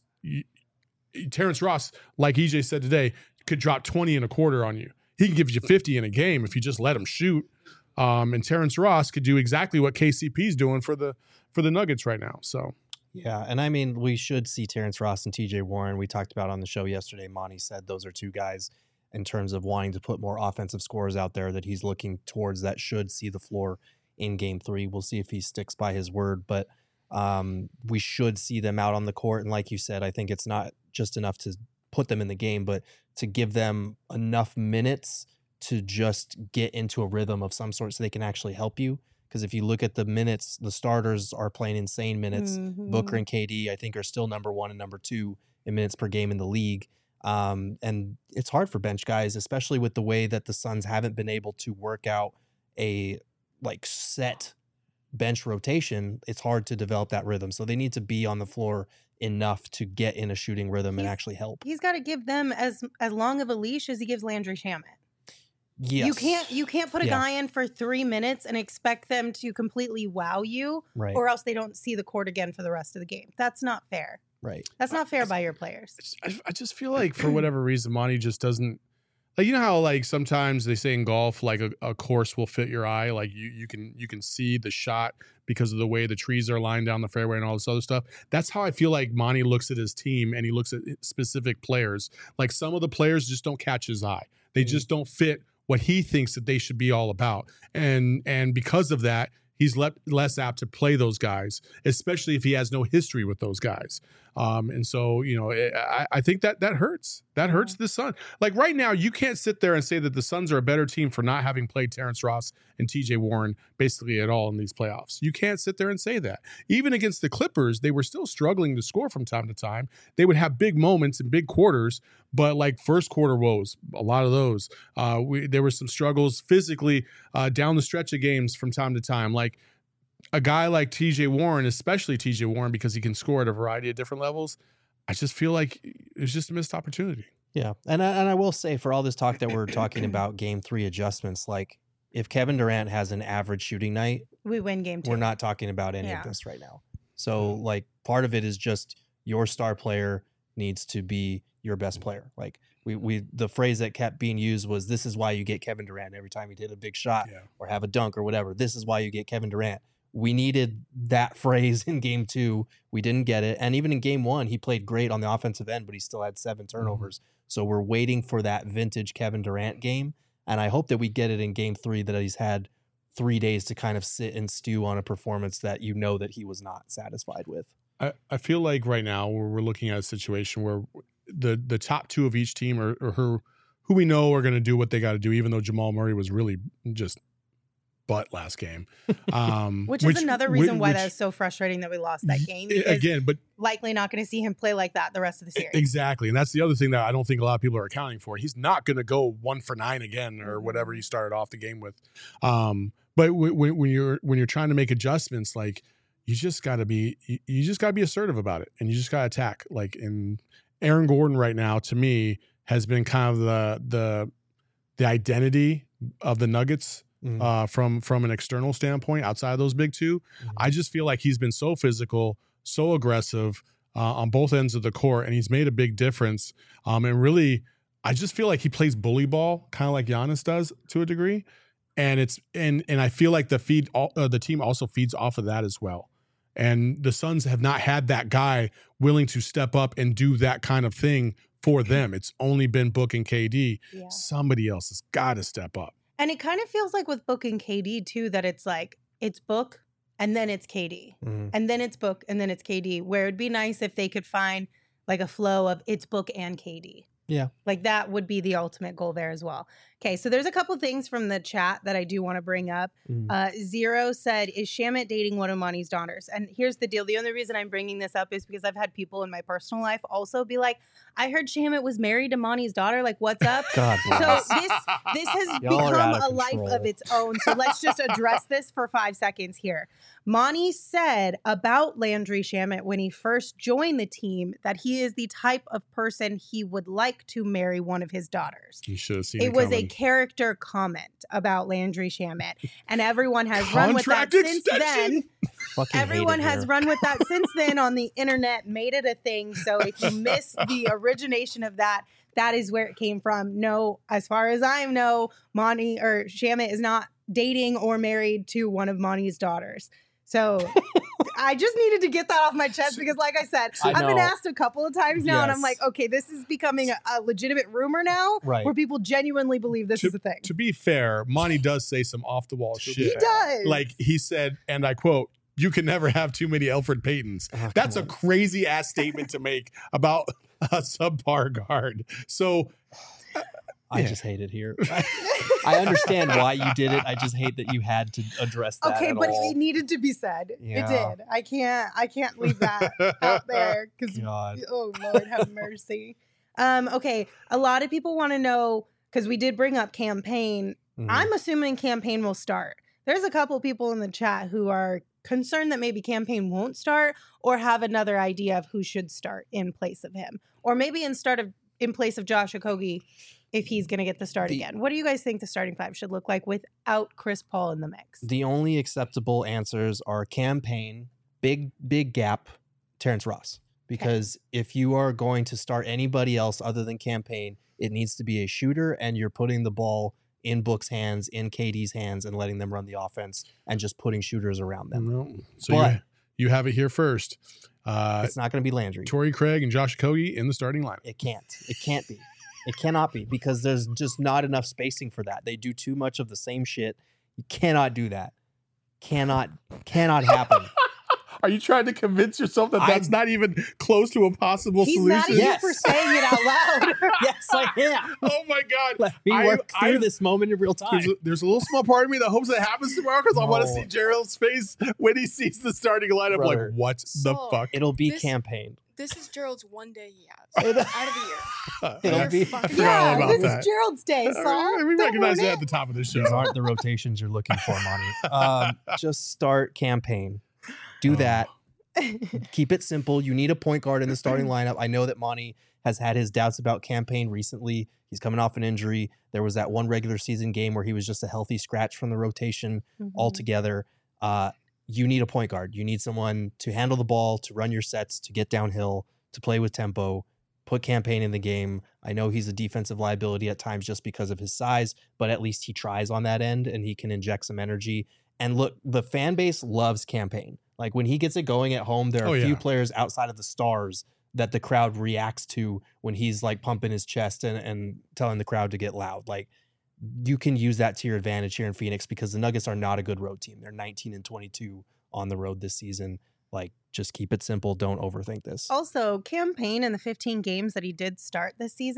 Terrence Ross, like EJ said today, could drop 20 in a quarter on you. He can give you 50 in a game if you just let him shoot. And Terrence Ross could do exactly what KCP is doing for the Nuggets right now. So. Yeah, and I mean, we should see Terrence Ross and TJ Warren. We talked about on the show yesterday, Monty said those are 2 guys in terms of wanting to put more offensive scores out there that he's looking towards that should see the floor in game 3. We'll see if he sticks by his word, but we should see them out on the court. And like you said, I think it's not just enough to put them in the game, but to give them enough minutes to just get into a rhythm of some sort so they can actually help you. Because if you look at the minutes, the starters are playing insane minutes. Booker and KD, I think, are still number 1 and number 2 in minutes per game in the league. And it's hard for bench guys, especially with the way that the Suns haven't been able to work out a set bench rotation. It's hard to develop that rhythm. So they need to be on the floor enough to get in a shooting rhythm and actually help. He's got to give them as long of a leash as he gives Landry Shamet. Yes. You can't put a guy in for 3 minutes and expect them to completely wow you, right, or else they don't see the court again for the rest of the game. That's not fair. Right. That's not fair by your players. I just feel like for whatever reason, Monty just doesn't. Like, you know how, like, sometimes they say in golf, like, a course will fit your eye. Like, you can see the shot because of the way the trees are lined down the fairway and all this other stuff. That's how I feel like Monty looks at his team and he looks at specific players. Like, some of the players just don't catch his eye. They just don't fit what he thinks that they should be all about. And because of that, he's less apt to play those guys, especially if he has no history with those guys. And so, you know, I think that hurts. That hurts the Suns. Like, right now, you can't sit there and say that the Suns are a better team for not having played Terrence Ross and TJ Warren basically at all in these playoffs. You can't sit there and say that. Even against the Clippers, they were still struggling to score from time to time. They would have big moments in big quarters, but like first quarter woes, a lot of those. There were some struggles physically down the stretch of games from time to time. Like, a guy like TJ Warren, especially TJ Warren, because he can score at a variety of different levels, I just feel like it's just a missed opportunity. Yeah. And I will say, for all this talk that we're talking about game 3 adjustments, like, if Kevin Durant has an average shooting night, we win game 2. We're not talking about any of this right now. So, like, part of it is just your star player needs to be your best player. Like, the phrase that kept being used was, this is why you get Kevin Durant every time he hit a big shot or have a dunk or whatever. This is why you get Kevin Durant. We needed that phrase in game 2. We didn't get it. And even in game 1, he played great on the offensive end, but he still had 7 turnovers. So we're waiting for that vintage Kevin Durant game. And I hope that we get it in game 3, that he's had 3 days to kind of sit and stew on a performance that you know that he was not satisfied with. I feel like right now we're looking at a situation where the top 2 of each team are who we know are going to do what they got to do, even though Jamal Murray was really just butt last game. Which is another reason why that which- was so frustrating that we lost that game. Because Again, but likely not going to see him play like that the rest of the series. exactly. And that's the other thing that I don't think a lot of people are accounting for. He's not going to go 1 for 9 again or whatever he started off the game with. But when you're trying to make adjustments, like you just got to be assertive about it, and you just got to attack. Like, in Aaron Gordon right now, to me, has been kind of the identity of the Nuggets. From an external standpoint, outside of those big two, I just feel like he's been so physical, so aggressive on both ends of the court, and he's made a big difference. And really, I just feel like he plays bully ball, kind of like Giannis does to a degree. And I feel like the team also feeds off of that as well. And the Suns have not had that guy willing to step up and do that kind of thing for them. It's only been Book and KD. Yeah. Somebody else has got to step up. And it kind of feels like with Book and KD too, that it's like it's Book and then it's KD. And then it's Book and then it's KD, where it'd be nice if they could find like a flow of it's Book and KD. Yeah. Like that would be the ultimate goal there as well. Okay, so there's a couple things from the chat that I do want to bring up. Zero said, is Shamet dating one of Monty's daughters? And here's the deal. The only reason I'm bringing this up is because I've had people in my personal life also be like, I heard Shamet was married to Monty's daughter. Like, what's up? God So bless. this has Y'all are become out of a life control. of its own. So let's just address this for 5 seconds here. Monty said about Landry Shamet when he first joined the team that he is the type of person he would like to marry one of his daughters. You should have seen It was a coming. character comment about Landry Shamet, and everyone has run with that Contract since extension? then. Fucking hate Everyone it has here. run with that since then on the internet, made it a thing. So if you missed the origination of that, that is where it came from. No, as far as I know, Monty or Shamet is not dating or married to one of Monty's daughters. So I just needed to get that off my chest because, like I said, I I've been know. asked a couple of times now, and I'm Yes. like, okay, this is becoming a legitimate rumor now, Right. where people genuinely believe this is a thing. To be fair, Monty does say some off the wall shit. He does. Like he said, and I quote, "You can never have too many Alfred Paytons." Oh, That's a come on. crazy ass statement to make about a subpar guard. So I Yeah. just hate it here. I understand why you did it. I just hate that you had to address that. Okay, at but all. it needed to be said. Yeah. It did. I can't leave that out there because God. oh Lord have mercy. Okay, a lot of people want to know because we did bring up campaign. Mhm. I'm assuming campaign will start. There's a couple people in the chat who are concerned that maybe campaign won't start or have another idea of who should start in place of him, or maybe in place of Josh Okogie if he's going to get the start again. What do you guys think the starting 5 should look like without Chris Paul in the mix? The only acceptable answers are campaign, big gap, Terrence Ross. Because if you are going to start anybody else other than campaign, it needs to be a shooter, and you're putting the ball in Book's hands, in KD's hands, and letting them run the offense and just putting shooters around them. no. So But- you have it here first. It's not going to be Landry. Torrey Craig and Josh Okogie in the starting lineup. It can't. It can't be. It cannot be because there's just not enough spacing for that. They do too much of the same shit. You cannot do that. Cannot happen. Are you trying to convince yourself that that's not even close to a possible He's mad solution? at you Yes. for saying it out loud. Yes, I am. Oh my God. Let me work through this moment in real time. There's a little small part of me that hopes it happens tomorrow because I want to No. see Gerald's face when he sees the starting lineup. Brother. Like, what the So- fuck? It'll be This- campaign. This is Gerald's one day he has out of the year. It'll be. fucking- forgot Yeah, about this that. is Gerald's day, Saul. we Don't recognize ruin that it. at the top of the show. These aren't the rotations you're looking for, Monty. Just start campaign. Do that. Keep it simple. You need a point guard in the starting lineup. I know that Monty has had his doubts about campaign recently. He's coming off an injury. There was that one regular season game where he was just a healthy scratch from the rotation altogether. You need a point guard. You need someone to handle the ball, to run your sets, to get downhill, to play with tempo, put campaign in the game. I know he's a defensive liability at times just because of his size, but at least he tries on that end and he can inject some energy. And look, the fan base loves campaign. Like when he gets it going at home, there are Oh, a few yeah. players outside of the stars that the crowd reacts to when he's like pumping his chest and telling the crowd to get loud. Like you can use that to your advantage here in Phoenix because the Nuggets are not a good road team. They're 19-22 on the road this season. Like just keep it simple. Don't overthink this. Also, campaign in the 15 games that he did start this season,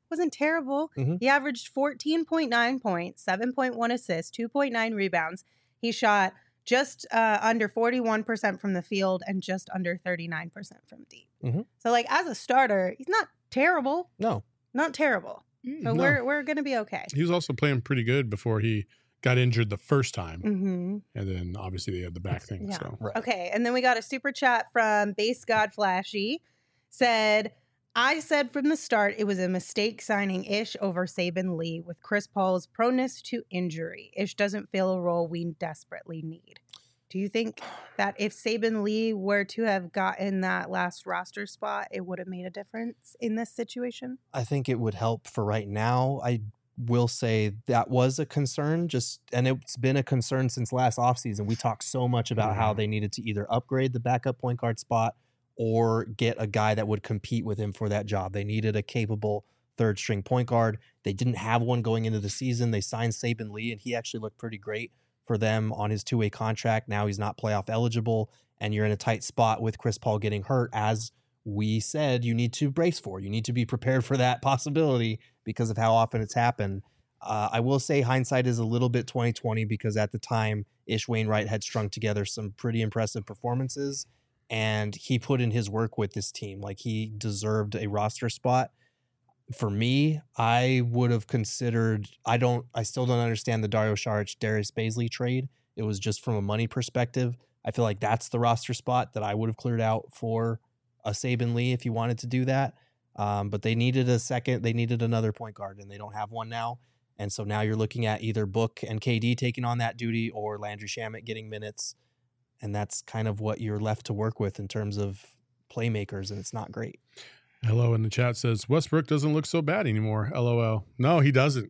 wasn't terrible. Mhm. He averaged 14.9 points, 7.1 assists, 2.9 rebounds. He shot just under 41% from the field and just under 39% from deep. Mhm. So, like, as a starter, he's not terrible. No. Not terrible. So No. we're going to be okay. He was also playing pretty good before he got injured the first time. Mm-hmm. And then obviously they had the back thing. Yeah. So Right. Okay, and then we got a super chat from Base God Flashy. Said, I said from the start it was a mistake signing Ish over Saban Lee with Chris Paul's proneness to injury. Ish doesn't fill a role we desperately need. Do you think that if Saban Lee were to have gotten that last roster spot, it would have made a difference in this situation? I think it would help for right now. I will say that was a concern, and it's been a concern since last offseason. We talked so much about how they needed to either upgrade the backup point guard spot or get a guy that would compete with him for that job. They needed a capable third string point guard. They didn't have one going into the season. They signed Saban Lee, and he actually looked pretty great for them on his 2-way contract. Now he's not playoff eligible, and you're in a tight spot with Chris Paul getting hurt. As we said, you need to brace for. You need to be prepared for that possibility because of how often it's happened. I will say hindsight is a little bit 2020 because at the time, Ish Wainwright had strung together some pretty impressive performances, and he put in his work with this team. Like, he deserved a roster spot. For me, I would have considered, I still don't understand the Dario Saric, Darius Baisley trade. It was just from a money perspective. I feel like that's the roster spot that I would have cleared out for a Saban Lee if you wanted to do that. But they needed they needed another point guard, and they don't have one now. And so now you're looking at either Book and KD taking on that duty or Landry Shamet getting minutes. And that's kind of what you're left to work with in terms of playmakers, and it's not great. Hello in the chat says Westbrook doesn't look so bad anymore. LOL. No, he doesn't.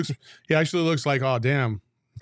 He actually looks like, oh damn.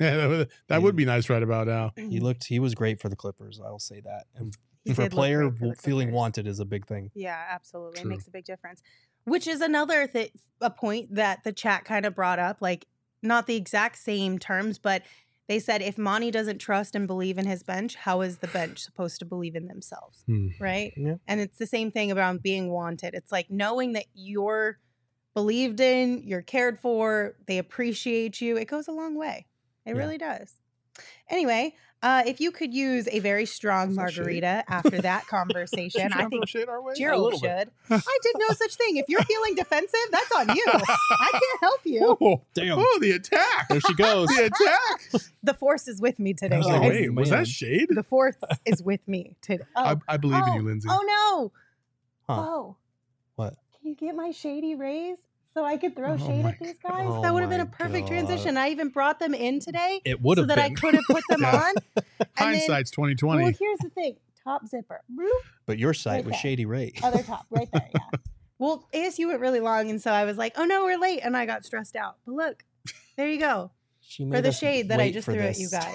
That would be nice right about now. He was great for the Clippers. I'll say that. And He for a did look player, great for the feeling Clippers. wanted is a big thing. Yeah, absolutely. True. It makes a big difference. Which is another a point that the chat kind of brought up, like not the exact same terms, but they said if Monty doesn't trust and believe in his bench, how is the bench supposed to believe in themselves? Right? Yeah. And it's the same thing about being wanted. It's like knowing that you're believed in, you're cared for, they appreciate you. It goes a long way. It Yeah. really does. Anyway, if you could use a very strong Is that shade? margarita after that conversation, I think shade our way? Gerald should. I did no such thing. If you're feeling defensive, that's on you. I can't help you. Oh, Damn. oh, the attack. There she goes. The attack. The force is with me today, I was guys. like, wait, was man. that shade? The force is with me today. Oh, I believe in you, Lindsay. Oh no. Huh. Oh. What? Can you get my shady rays so I could throw Oh shade my at these guys? Oh That would have been my a perfect God. transition. I even brought them in today It would so have that been. I could have put them Yeah. on. And then, Hindsight's 2020. well, here's the thing. Top zipper. Bloop. But your site was Okay. Shady Ray. Other top, right there, yeah. Well, ASU went really long, and so I was like, oh no, we're late, and I got stressed out. But look, there you go. She For made the us shade that I wait just for threw at this. you guys.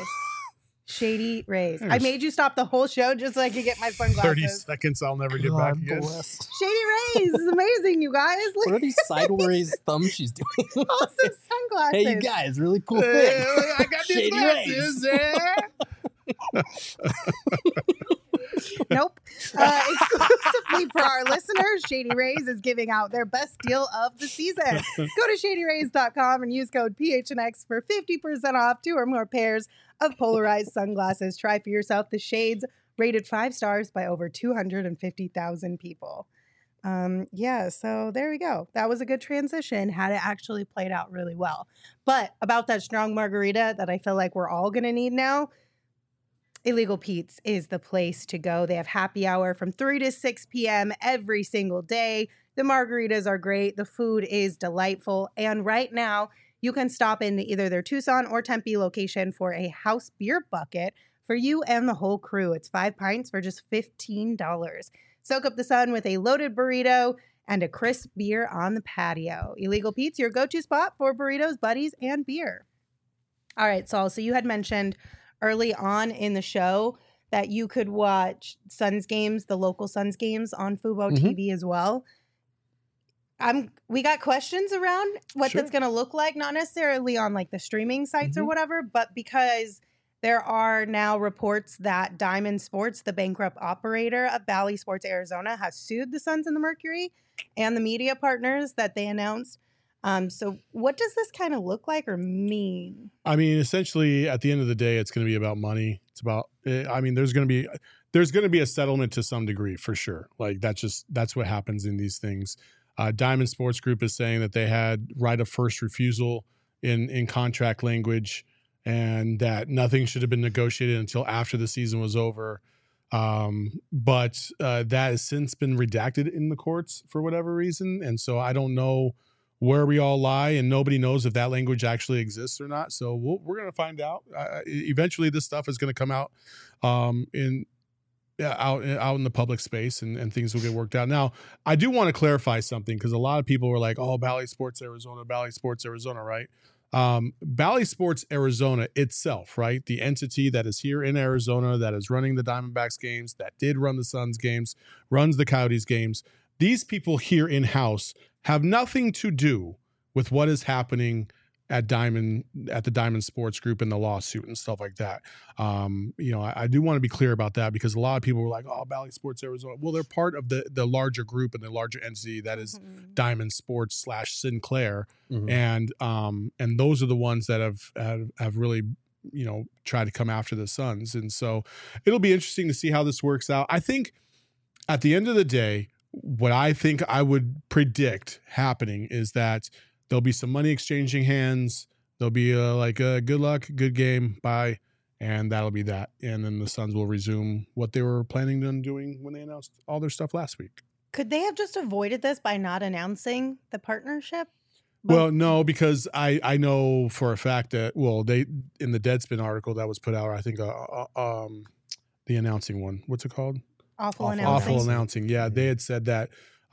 Shady rays. I There's- made you stop the whole show just so I could get my 30 sunglasses. seconds, I'll never get back God again. bless. Shady rays is amazing, you guys. What are these sideways thumbs she's doing? Awesome sunglasses. Hey, you guys, really cool thing. I got these Shady glasses. Nope. Exclusively for our listeners, Shady Rays is giving out their best deal of the season. Go to shadyrays.com and use code PHNX for 50% off 2 or more pairs of polarized sunglasses. Try for yourself the shades rated 5 stars by over 250,000 people. Yeah, so there we go. That was a good transition. Had it actually played out really well. But about that strong margarita that I feel like we're all going to need now, Illegal Pete's is the place to go. They have happy hour from 3 to 6 p.m. every single day. The margaritas are great. The food is delightful. And right now, you can stop in either their Tucson or Tempe location for a house beer bucket for you and the whole crew. It's 5 pints for just $15. Soak up the sun with a loaded burrito and a crisp beer on the patio. Illegal Pete's, your go-to spot for burritos, buddies, and beer. All right, Saul, so you had mentioned early on in the show that you could watch Suns games, the local Suns games on Fubo TV as well. We got questions around what Sure. that's going to look like, not necessarily on like the streaming sites or whatever, but because there are now reports that Diamond Sports, the bankrupt operator of Bally Sports Arizona, has sued the Suns and the Mercury and the media partners that they announced So what does this kind of look like or mean? I mean, essentially, at the end of the day, it's going to be about money. It's about. I mean, there's going to be a settlement to some degree for sure. Like that's what happens in these things. Diamond Sports Group is saying that they had right of first refusal in contract language, and that nothing should have been negotiated until after the season was over. But that has since been redacted in the courts for whatever reason, and so I don't know where we all lie, and nobody knows if that language actually exists or not. So we're going to find out. Eventually, this stuff is going to come out out in the public space, and things will get worked out. Now, I do want to clarify something, because a lot of people were like, "Oh, Bally Sports Arizona, right?" Bally Sports Arizona itself, right? The entity that is here in Arizona, that is running the Diamondbacks games, that did run the Suns games, runs the Coyotes games. These people here in-house have nothing to do with what is happening at the Diamond Sports Group and the lawsuit and stuff like that. I do want to be clear about that, because a lot of people were like, "Oh, Bally Sports Arizona." Well, they're part of the larger group and the larger entity that is Diamond Sports / Sinclair, and those are the ones that have really tried to come after the Suns, and so it'll be interesting to see how this works out. I think at the end of the day, what I think I would predict happening is that there'll be some money exchanging hands. There'll be good luck, good game, bye, and that'll be that. And then the Suns will resume what they were planning on doing when they announced all their stuff last week. Could they have just avoided this by not announcing the partnership? Well, no, because I know for a fact that, they, in the Deadspin article that was put out, I think the announcing one, what's it called? Awful Announcing. Awful Announcing. Yeah, they had said that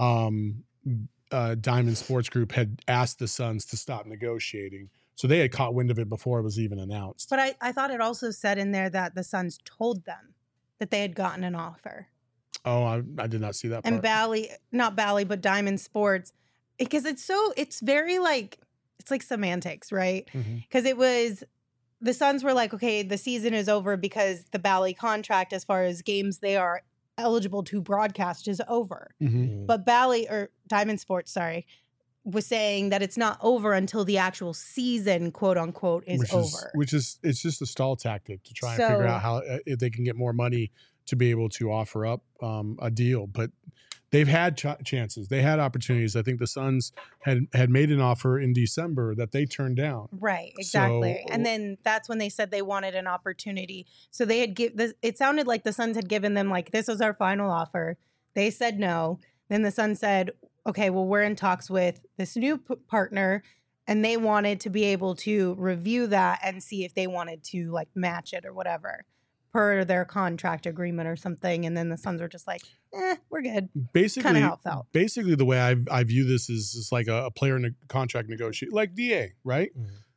Diamond Sports Group had asked the Suns to stop negotiating. So they had caught wind of it before it was even announced. But I thought it also said in there that the Suns told them that they had gotten an offer. Oh, I did not see that part. And not Bally, but Diamond Sports, because it's very it's like semantics, right? Because it was, the Suns were like, okay, the season is over because the Bally contract, as far as games they are eligible to broadcast, is over. But Bally, or Diamond Sports, sorry, was saying that it's not over until the actual season, quote unquote, is over. It's just a stall tactic to try and figure out how if they can get more money to be able to offer up a deal. But they've had chances. They had opportunities. I think the Suns had made an offer in December that they turned down. Right, exactly. And then that's when they said they wanted an opportunity. So they had it sounded like the Suns had given them this is our final offer. They said no. Then the Suns said, okay, well, we're in talks with this new partner, and they wanted to be able to review that and see if they wanted to match it or whatever per their contract agreement or something. And then the Suns were just like, we're good. Basically, kind of how it felt. Basically, the way I view this is like a player contract negotiation, like DA, right?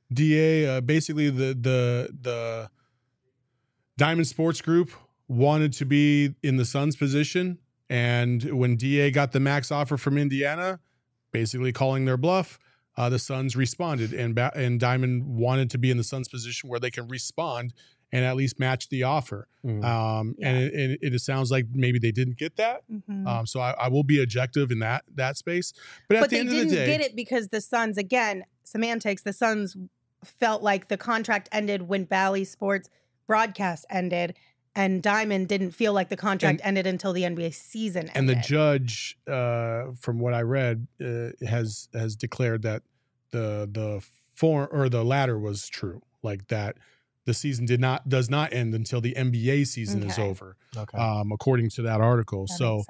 DA, basically the Diamond Sports Group wanted to be in the Suns position. And when DA got the max offer from Indiana, basically calling their bluff, the Suns responded. And Diamond wanted to be in the Suns position where they can respond and at least match the offer. And it sounds like maybe they didn't get that. So I will be objective in that space. But at the end of the day, they didn't get it because the Suns, again, semantics, the Suns felt like the contract ended when Bally Sports broadcast ended, and Diamond didn't feel like the contract ended until the NBA season ended. And the judge, from what I read, has declared that the latter was true, like that the season does not end until the NBA season is over, according to that article.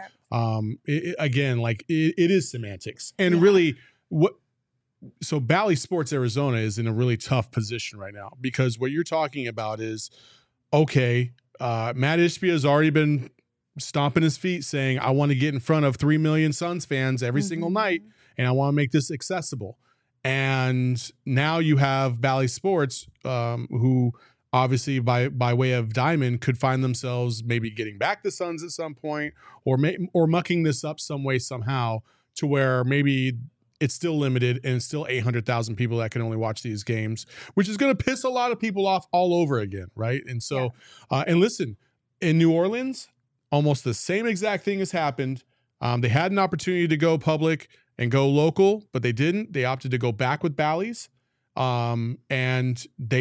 It is semantics, and really so Bally Sports Arizona is in a really tough position right now, because what you're talking about is, okay, Matt Ishbia has already been stomping his feet saying, I want to get in front of 3 million Suns fans every single night, and I want to make this accessible. And now you have Bally Sports, who obviously by way of Diamond could find themselves maybe getting back the Suns at some point, or mucking this up some way, somehow, to where maybe it's still limited and it's still 800,000 people that can only watch these games, which is going to piss a lot of people off all over again, right? And so, and listen, in New Orleans, almost the same exact thing has happened. They had an opportunity to go public, and go local, but they didn't. They opted to go back with Bally's. And they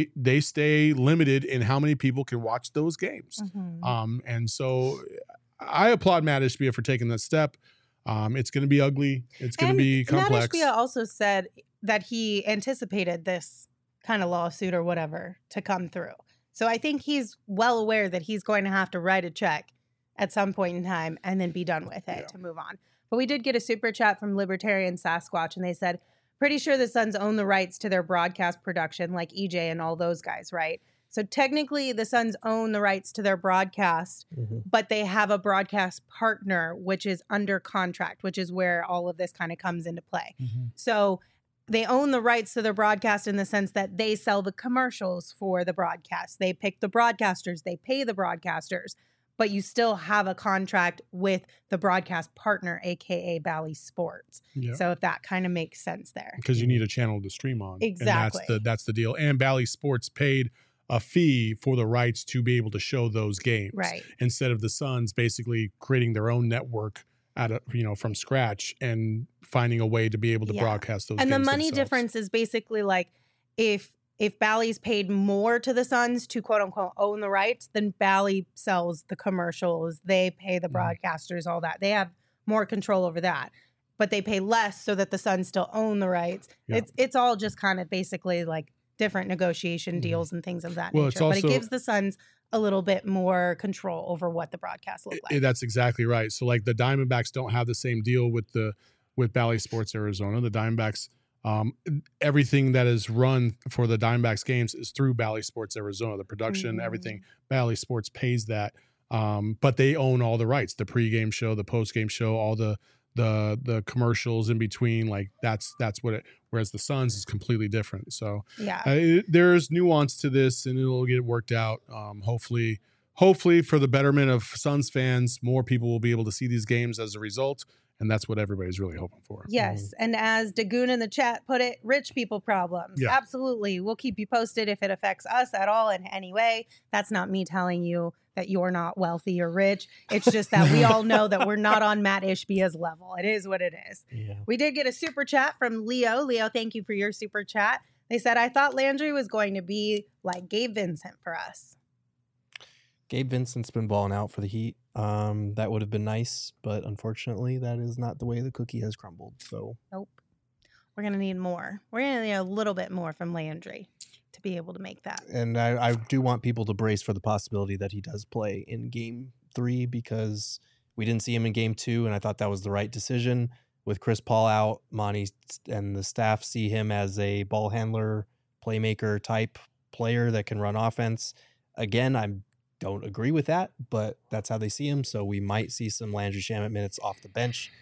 stay limited in how many people can watch those games. And so I applaud Matt Ishbia for taking that step. It's going to be ugly. It's going to be complex. Matt Ishbia also said that he anticipated this kind of lawsuit or whatever to come through. So I think he's well aware that he's going to have to write a check at some point in time and then be done with it to move on. But we did get a super chat from Libertarian Sasquatch, and they said, pretty sure the Suns own the rights to their broadcast production, like EJ and all those guys, right? So technically, the Suns own the rights to their broadcast, but they have a broadcast partner, which is under contract, which is where all of this kind of comes into play. So they own the rights to their broadcast in the sense that they sell the commercials for the broadcast. They pick the broadcasters. They pay the broadcasters. But you still have a contract with the broadcast partner, a.k.a. Bally Sports. Yeah. So if that kind of makes sense there. Because you need a channel to stream on. Exactly. And that's the deal. And Bally Sports paid a fee for the rights to be able to show those games. Right. Instead of the Suns basically creating their own network from scratch and finding a way to be able to broadcast those games. And the money themselves. difference is basically like if Bally's paid more to the Suns to quote unquote own the rights, then Bally sells the commercials. They pay the broadcasters, all that. They have more control over that, but they pay less so that the Suns still own the rights. Yeah. It's all just kind of basically like different negotiation deals and things of that nature. But it gives the Suns a little bit more control over what the broadcasts look like. That's exactly right. So like the Diamondbacks don't have the same deal with Bally Sports Arizona. The Diamondbacks, everything that is run for the Diamondbacks games is through Bally Sports Arizona. The production, everything, Bally Sports pays that. But they own all the rights, the pregame show, the postgame show, all the commercials in between. Like that's what it, whereas the Suns is completely different. So there's nuance to this and it'll get worked out. Hopefully for the betterment of Suns fans, more people will be able to see these games as a result. And that's what everybody's really hoping for. Yes. And as Dagoon in the chat put it, rich people problems. Yeah. Absolutely. We'll keep you posted if it affects us at all in any way. That's not me telling you that you're not wealthy or rich. It's just that we all know that we're not on Matt Ishbia's level. It is what it is. Yeah. We did get a super chat from Leo. Leo, thank you for your super chat. They said, I thought Landry was going to be like Gabe Vincent for us. Gabe Vincent's been balling out for the Heat. That would have been nice, but unfortunately, that is not the way the cookie has crumbled. So nope. We're going to need more. We're going to need a little bit more from Landry to be able to make that. And I do want people to brace for the possibility that he does play in Game 3 because we didn't see him in Game 2, and I thought that was the right decision. With Chris Paul out, Monty and the staff see him as a ball handler, playmaker type player that can run offense. Again, I don't agree with that, but that's how they see him. So we might see some Landry Shamet minutes off the bench.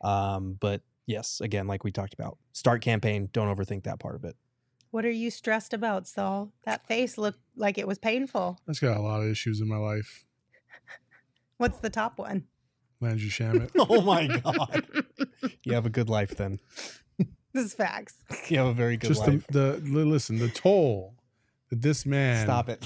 But yes, again, like we talked about, start campaign. Don't overthink that part of it. What are you stressed about, Saul? That face looked like it was painful. I've got a lot of issues in my life. What's the top one? Landry Shamet. Oh my God. You have a good life then. This is facts. You have a very good life. Listen, the toll that this man. Stop it.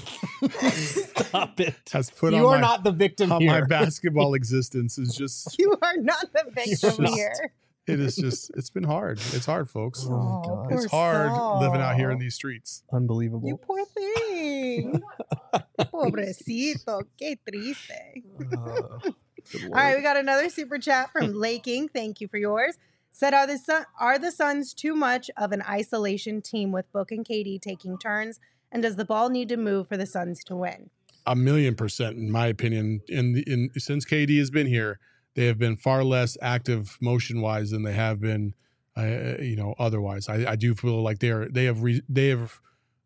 Stop it. Has put you on are not the victim on here. My basketball existence is just. You are not the victim here. It is just, it's been hard. It's hard, folks. Oh, God. It's hard Saul. living out here in these streets. Unbelievable. You poor thing. Pobrecito. Qué triste. All right, we got another super chat from Laking. Thank you for yours. Said, are the Suns too much of an isolation team with Book and KD taking turns? And does the ball need to move for the Suns to win? 1,000,000%, in my opinion. Since KD has been here, they have been far less active motion-wise than they have been, otherwise. I do feel like they have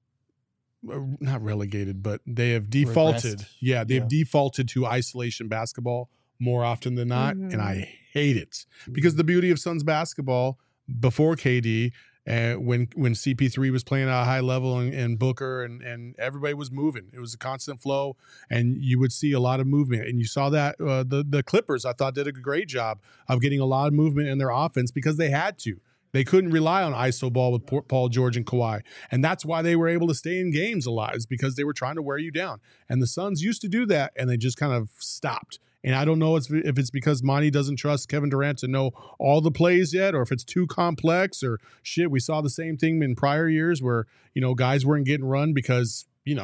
not relegated, but they have defaulted. Regressed. Yeah, they've defaulted to isolation basketball more often than not, and I hate it because the beauty of Suns basketball before KD. When CP3 was playing at a high level and Booker and everybody was moving, it was a constant flow, and you would see a lot of movement. And you saw that the Clippers, I thought, did a great job of getting a lot of movement in their offense because they had to. They couldn't rely on iso ball with Paul George and Kawhi, and that's why they were able to stay in games a lot. Is because they were trying to wear you down. And the Suns used to do that, and they just kind of stopped. And I don't know if it's because Monty doesn't trust Kevin Durant to know all the plays yet, or if it's too complex or shit. We saw the same thing in prior years where, guys weren't getting run because,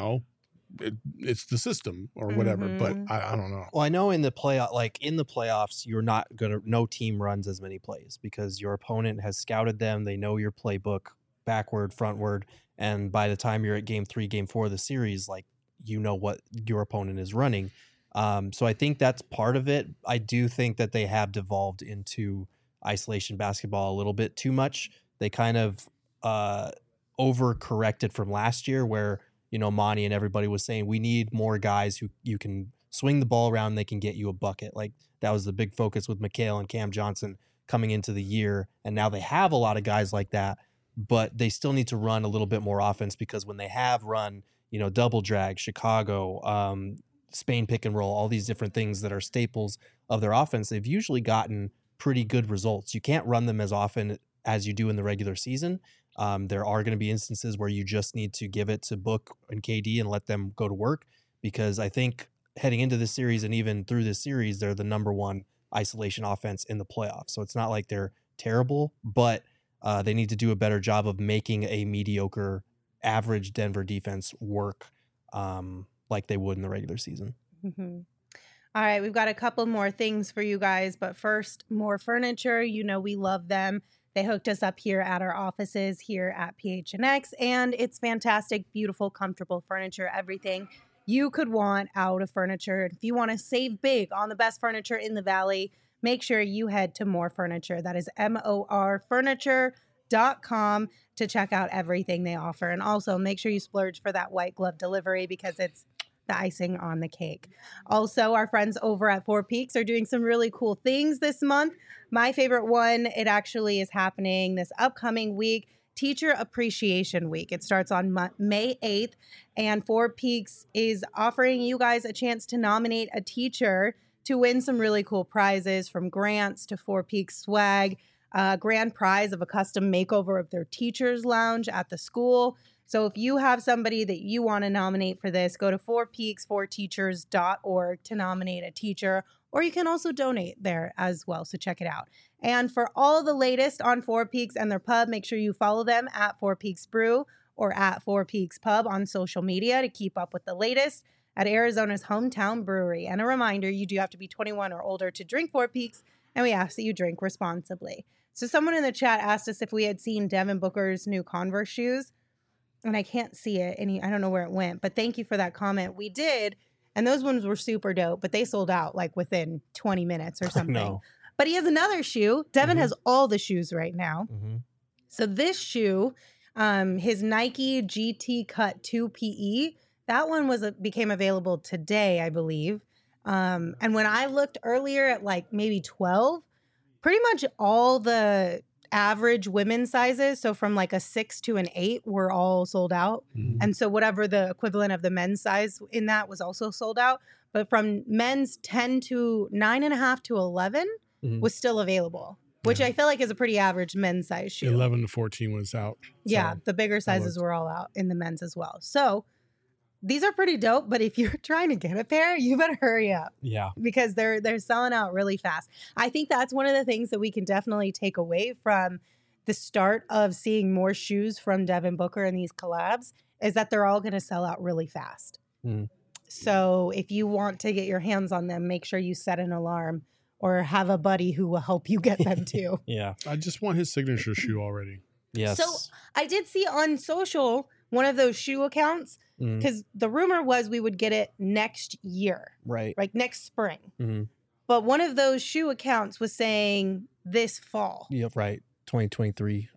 it's the system or whatever. But I don't know. Well, I know in the playoffs, you're not no team runs as many plays because your opponent has scouted them. They know your playbook backward, frontward. And by the time you're at game 3, game 4 of the series, like, what your opponent is running. So I think that's part of it. I do think that they have devolved into isolation basketball a little bit too much. They kind of overcorrected from last year where, Monty and everybody was saying, we need more guys who you can swing the ball around and they can get you a bucket. Like, that was the big focus with Mikal and Cam Johnson coming into the year. And now they have a lot of guys like that, but they still need to run a little bit more offense because when they have run, double drag, Chicago, Spain pick and roll, all these different things that are staples of their offense, they've usually gotten pretty good results. You can't run them as often as you do in the regular season. There are going to be instances where you just need to give it to Book and KD and let them go to work, because I think heading into this series and even through this series, they're the number 1 isolation offense in the playoffs. So it's not like they're terrible, but they need to do a better job of making a mediocre, average Denver defense work like they would in the regular season. Mm-hmm. All right, we've got a couple more things for you guys, but first, more furniture. We love them. They hooked us up here at our offices here at PHNX, and it's fantastic, beautiful, comfortable furniture, everything you could want out of furniture. If you want to save big on the best furniture in the Valley, make sure you head to More Furniture. That is morfurniture.com to check out everything they offer. And also make sure you splurge for that white glove delivery because it's the icing on the cake. Also, our friends over at Four Peaks are doing some really cool things this month. My favorite one, it actually is happening this upcoming week, Teacher Appreciation Week. It starts on May 8th, and Four Peaks is offering you guys a chance to nominate a teacher to win some really cool prizes, from grants to Four Peaks swag, grand prize of a custom makeover of their teacher's lounge at the school. So if you have somebody that you want to nominate for this, go to 4peaks4teachers.org to nominate a teacher, or you can also donate there as well. So check it out. And for all the latest on Four Peaks and their pub, make sure you follow them at Four Peaks Brew or at Four Peaks Pub on social media to keep up with the latest at Arizona's hometown brewery. And a reminder, you do have to be 21 or older to drink Four Peaks, and we ask that you drink responsibly. So someone in the chat asked us if we had seen Devin Booker's new Converse shoes. And I can't see it. I don't know where it went, but thank you for that comment. We did. And those ones were super dope, but they sold out like within 20 minutes or something. No. But he has another shoe. Devin has all the shoes right now. Mm-hmm. So this shoe, his Nike GT Cut 2 PE, that one became available today, I believe. And when I looked earlier at like maybe 12, pretty much all the average women's sizes, so from like a 6 to an 8, were all sold out. Mm-hmm. And so whatever the equivalent of the men's size in that was also sold out. But from men's 10 to 9.5 to 11 was still available, which I feel like is a pretty average men's size shoe. 11 to 14 was out. Yeah, the bigger sizes were all out in the men's as well. So these are pretty dope, but if you're trying to get a pair, you better hurry up. Yeah. Because they're selling out really fast. I think that's one of the things that we can definitely take away from the start of seeing more shoes from Devin Booker and these collabs is that they're all going to sell out really fast. Mm. So if you want to get your hands on them, make sure you set an alarm or have a buddy who will help you get them too. Yeah. I just want his signature shoe already. Yes. So I did see on social one of those shoe accounts, because the rumor was we would get it next year. Right. Like next spring. Mm-hmm. But one of those shoe accounts was saying this fall. Yep. Right. 2023.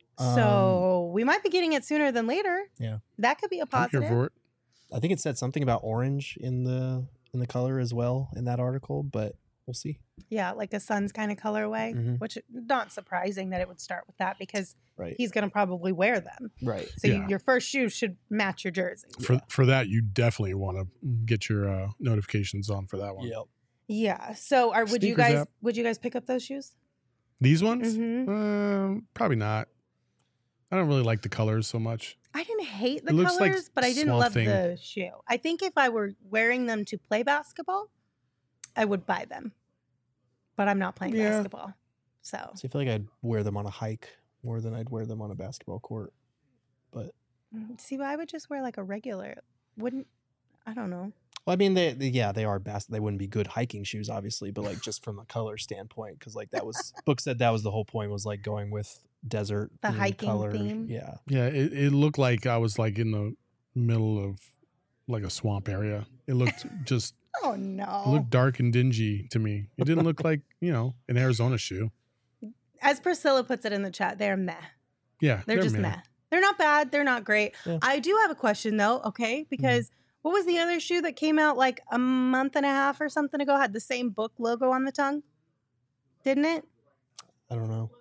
So we might be getting it sooner than later. Yeah. That could be a positive. I'm here for it. I think it said something about orange in the color as well in that article, but we'll see. Yeah, like a Suns kind of colorway, which not surprising that it would start with that because he's going to probably wear them. Right. So your first shoe should match your jersey. For that, you definitely want to get your notifications on for that one. Yep. Yeah. So would you guys pick up those shoes? These ones? Probably not. I don't really like the colors so much. I didn't hate the colors, but I didn't love the shoe. I think if I were wearing them to play basketball, I would buy them. But I'm not playing Yeah. basketball. So So I feel like I'd wear them on a hike more than I'd wear them on a basketball court. But see, I would just wear like a regular. Wouldn't I don't know. well, I mean, they are they wouldn't be good hiking shoes, obviously, but like just from a color standpoint, because like that was book said that was the whole point, was like going with desert The themed hiking color. theme? Yeah, Yeah, it looked like I was like in the middle of like a swamp area. It looked just Oh it no. looked dark and dingy to me. It didn't look like, an Arizona shoe. As Priscilla puts it in the chat, they're meh. Yeah, They're just meh. They're not bad. They're not great. Yeah. I do have a question though, okay? Because what was the other shoe that came out like a month and a half or something ago? Had the same book logo on the tongue? Didn't it? I don't know.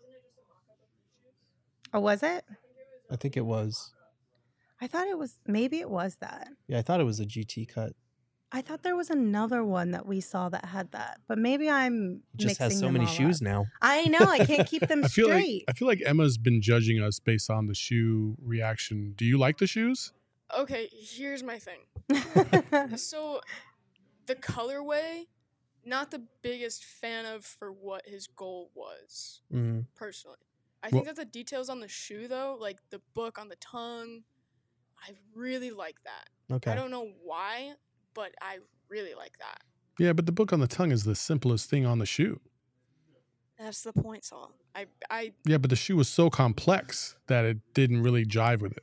Or was it? I think it was. I thought it was, maybe it was that. Yeah, I thought it was a GT cut. I thought there was another one that we saw that had that, but maybe I'm It just has mixing so them many all shoes up. now. I know. I can't keep them I feel straight. like Emma's been judging us based on the shoe reaction. Do you like the shoes? Okay, here's my thing. So, the colorway, not the biggest fan of for what his goal was, Mm-hmm. personally. I think that the details on the shoe, though, like the book on the tongue, I really like that. Okay. I don't know why, but I really like that. Yeah, but the book on the tongue is the simplest thing on the shoe. That's the point, Saul. I Yeah, but the shoe was so complex that it didn't really jive with it.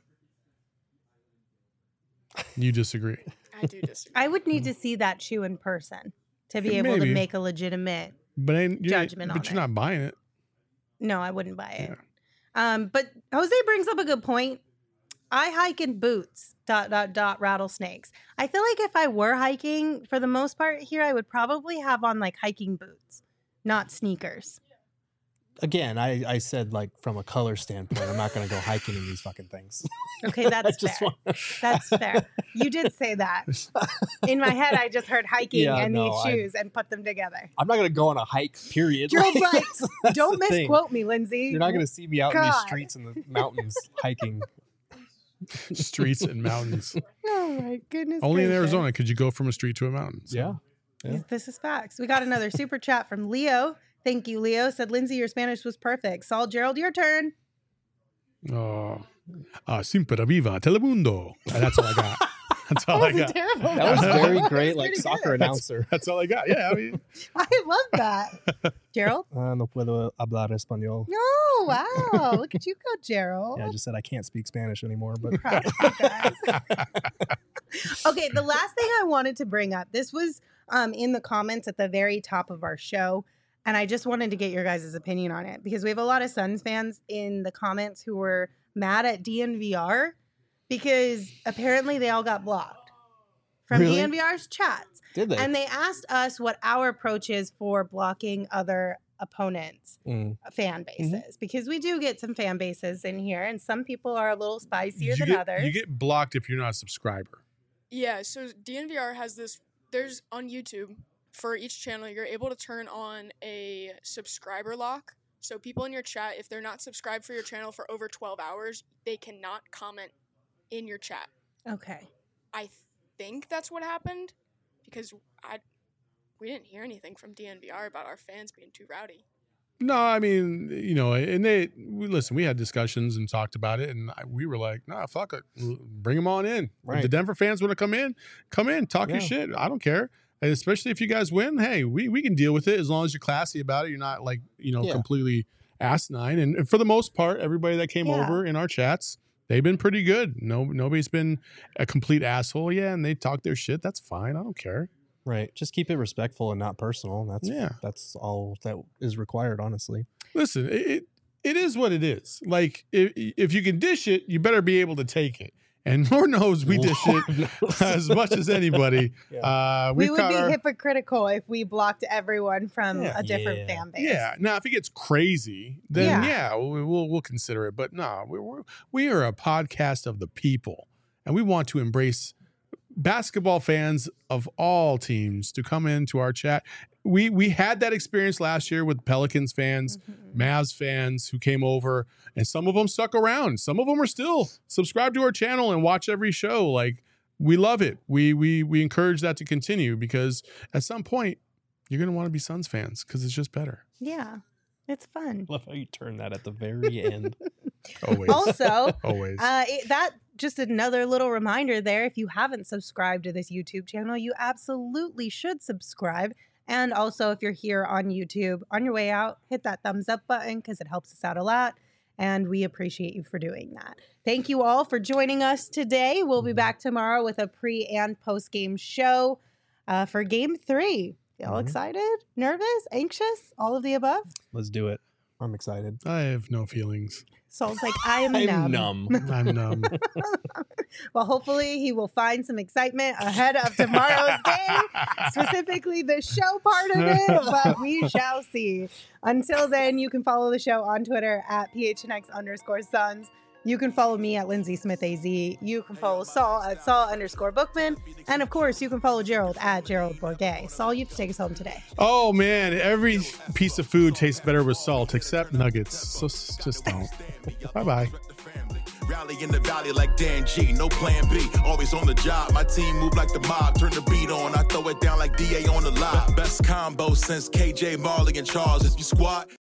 You disagree? do disagree. I would need to see that shoe in person to be able to Maybe. make a legitimate. But Judgment on But you're it. not buying it. No, I wouldn't buy it. But Jose brings up a good point. I hike in boots. ... rattlesnakes. I feel like if I were hiking, for the most part here, I would probably have on like hiking boots, not sneakers. Again, I said like from a color standpoint, I'm not going to go hiking in these fucking things. Okay, that's just fair. want- That's fair. You did say that. In my head, I just heard hiking Yeah, and no, these shoes and put them together. I'm not going to go on a hike, period. Gerald's like, That's don't the thing. misquote me, Lindsay. You're not going to see me out in these God. streets in the mountains hiking. Streets and mountains. Oh my goodness. Only in gracious. Arizona could you go from a street to a mountain. So. Yeah. This is facts. We got another super chat from Leo. Thank you, Leo. Said, Lindsay, your Spanish was perfect. Saul, Gerald, your turn. Oh, Simpera Viva Telemundo. That's all I got. That's all I got. Terrible. That was very That great, was like pretty soccer good. announcer. That's all I got. Yeah, I mean, I love that. Gerald? No puedo hablar español. Oh, wow. Look at you go, Gerald. Yeah, I just said I can't speak Spanish anymore, but Proud of you guys. Okay, the last thing I wanted to bring up, this was in the comments at the very top of our show, and I just wanted to get your guys' opinion on it because we have a lot of Suns fans in the comments who were mad at DNVR because apparently they all got blocked from Really? DNVR's chats. did they? And they asked us what our approach is for blocking other opponents' fan bases because we do get some fan bases in here, and some people are a little spicier than others. You get blocked if you're not a subscriber. Yeah, so DNVR has this, there's on YouTube, for each channel, you're able to turn on a subscriber lock. So people in your chat, if they're not subscribed for your channel for over 12 hours, they cannot comment in your chat. Okay. I think that's what happened because we didn't hear anything from DNVR about our fans being too rowdy. No, I mean, and we had discussions and talked about it, and we were like, nah, fuck it. Bring them on in. Right. If the Denver fans want to come in, talk your Yeah. shit. I don't care. And especially if you guys win, hey, we can deal with it as long as you're classy about it. You're not like, Yeah. completely asinine. And for the most part, everybody that came Yeah. over in our chats, they've been pretty good. Nobody's been a complete asshole. Yeah, and they talk their shit. That's fine. I don't care. Right. Just keep it respectful and not personal. That's all that is required, honestly. Listen, it is what it is. Like, if you can dish it, you better be able to take it. And Lord knows we dish it as much as anybody. We would be hypocritical if we blocked everyone from a different fan base. Yeah. Now, if it gets crazy, then we'll consider it. But no, we are a podcast of the people, and we want to embrace basketball fans of all teams to come into our chat. We had that experience last year with Pelicans fans, Mavs fans who came over, and some of them stuck around. Some of them are still subscribed to our channel and watch every show. Like, we love it. We encourage that to continue because at some point, you're going to want to be Suns fans because it's just better. Yeah, it's fun. Love how you turn that at the very end. Always. Also, Always. that just another little reminder there. If you haven't subscribed to this YouTube channel, you absolutely should subscribe. And also, if you're here on YouTube, on your way out, hit that thumbs up button because it helps us out a lot. And we appreciate you for doing that. Thank you all for joining us today. We'll be back tomorrow with a pre and post game show for Game 3. Y'all excited? Nervous? Anxious? All of the above? Let's do it. I'm excited. I have no feelings. Saul's like, I'm numb. I'm numb. Well, hopefully he will find some excitement ahead of tomorrow's game, specifically the show part of it, but we shall see. Until then, you can follow the show on Twitter at PHNX_Suns. You can follow me at Lindsay Smith AZ. You can follow Saul at Saul_Bookman. And of course, you can follow Gerald at Gerald Bourget. Saul, you have to take us home today. Oh, man. Every piece of food tastes better with salt, except nuggets. So just don't. Bye-bye. Rally in the valley like Dan G, no plan B. Always on the job, my team move like the mob. Turn the beat on, I throw it down like DA on the live. Best combo since KJ, Marley, and Charles. If you squat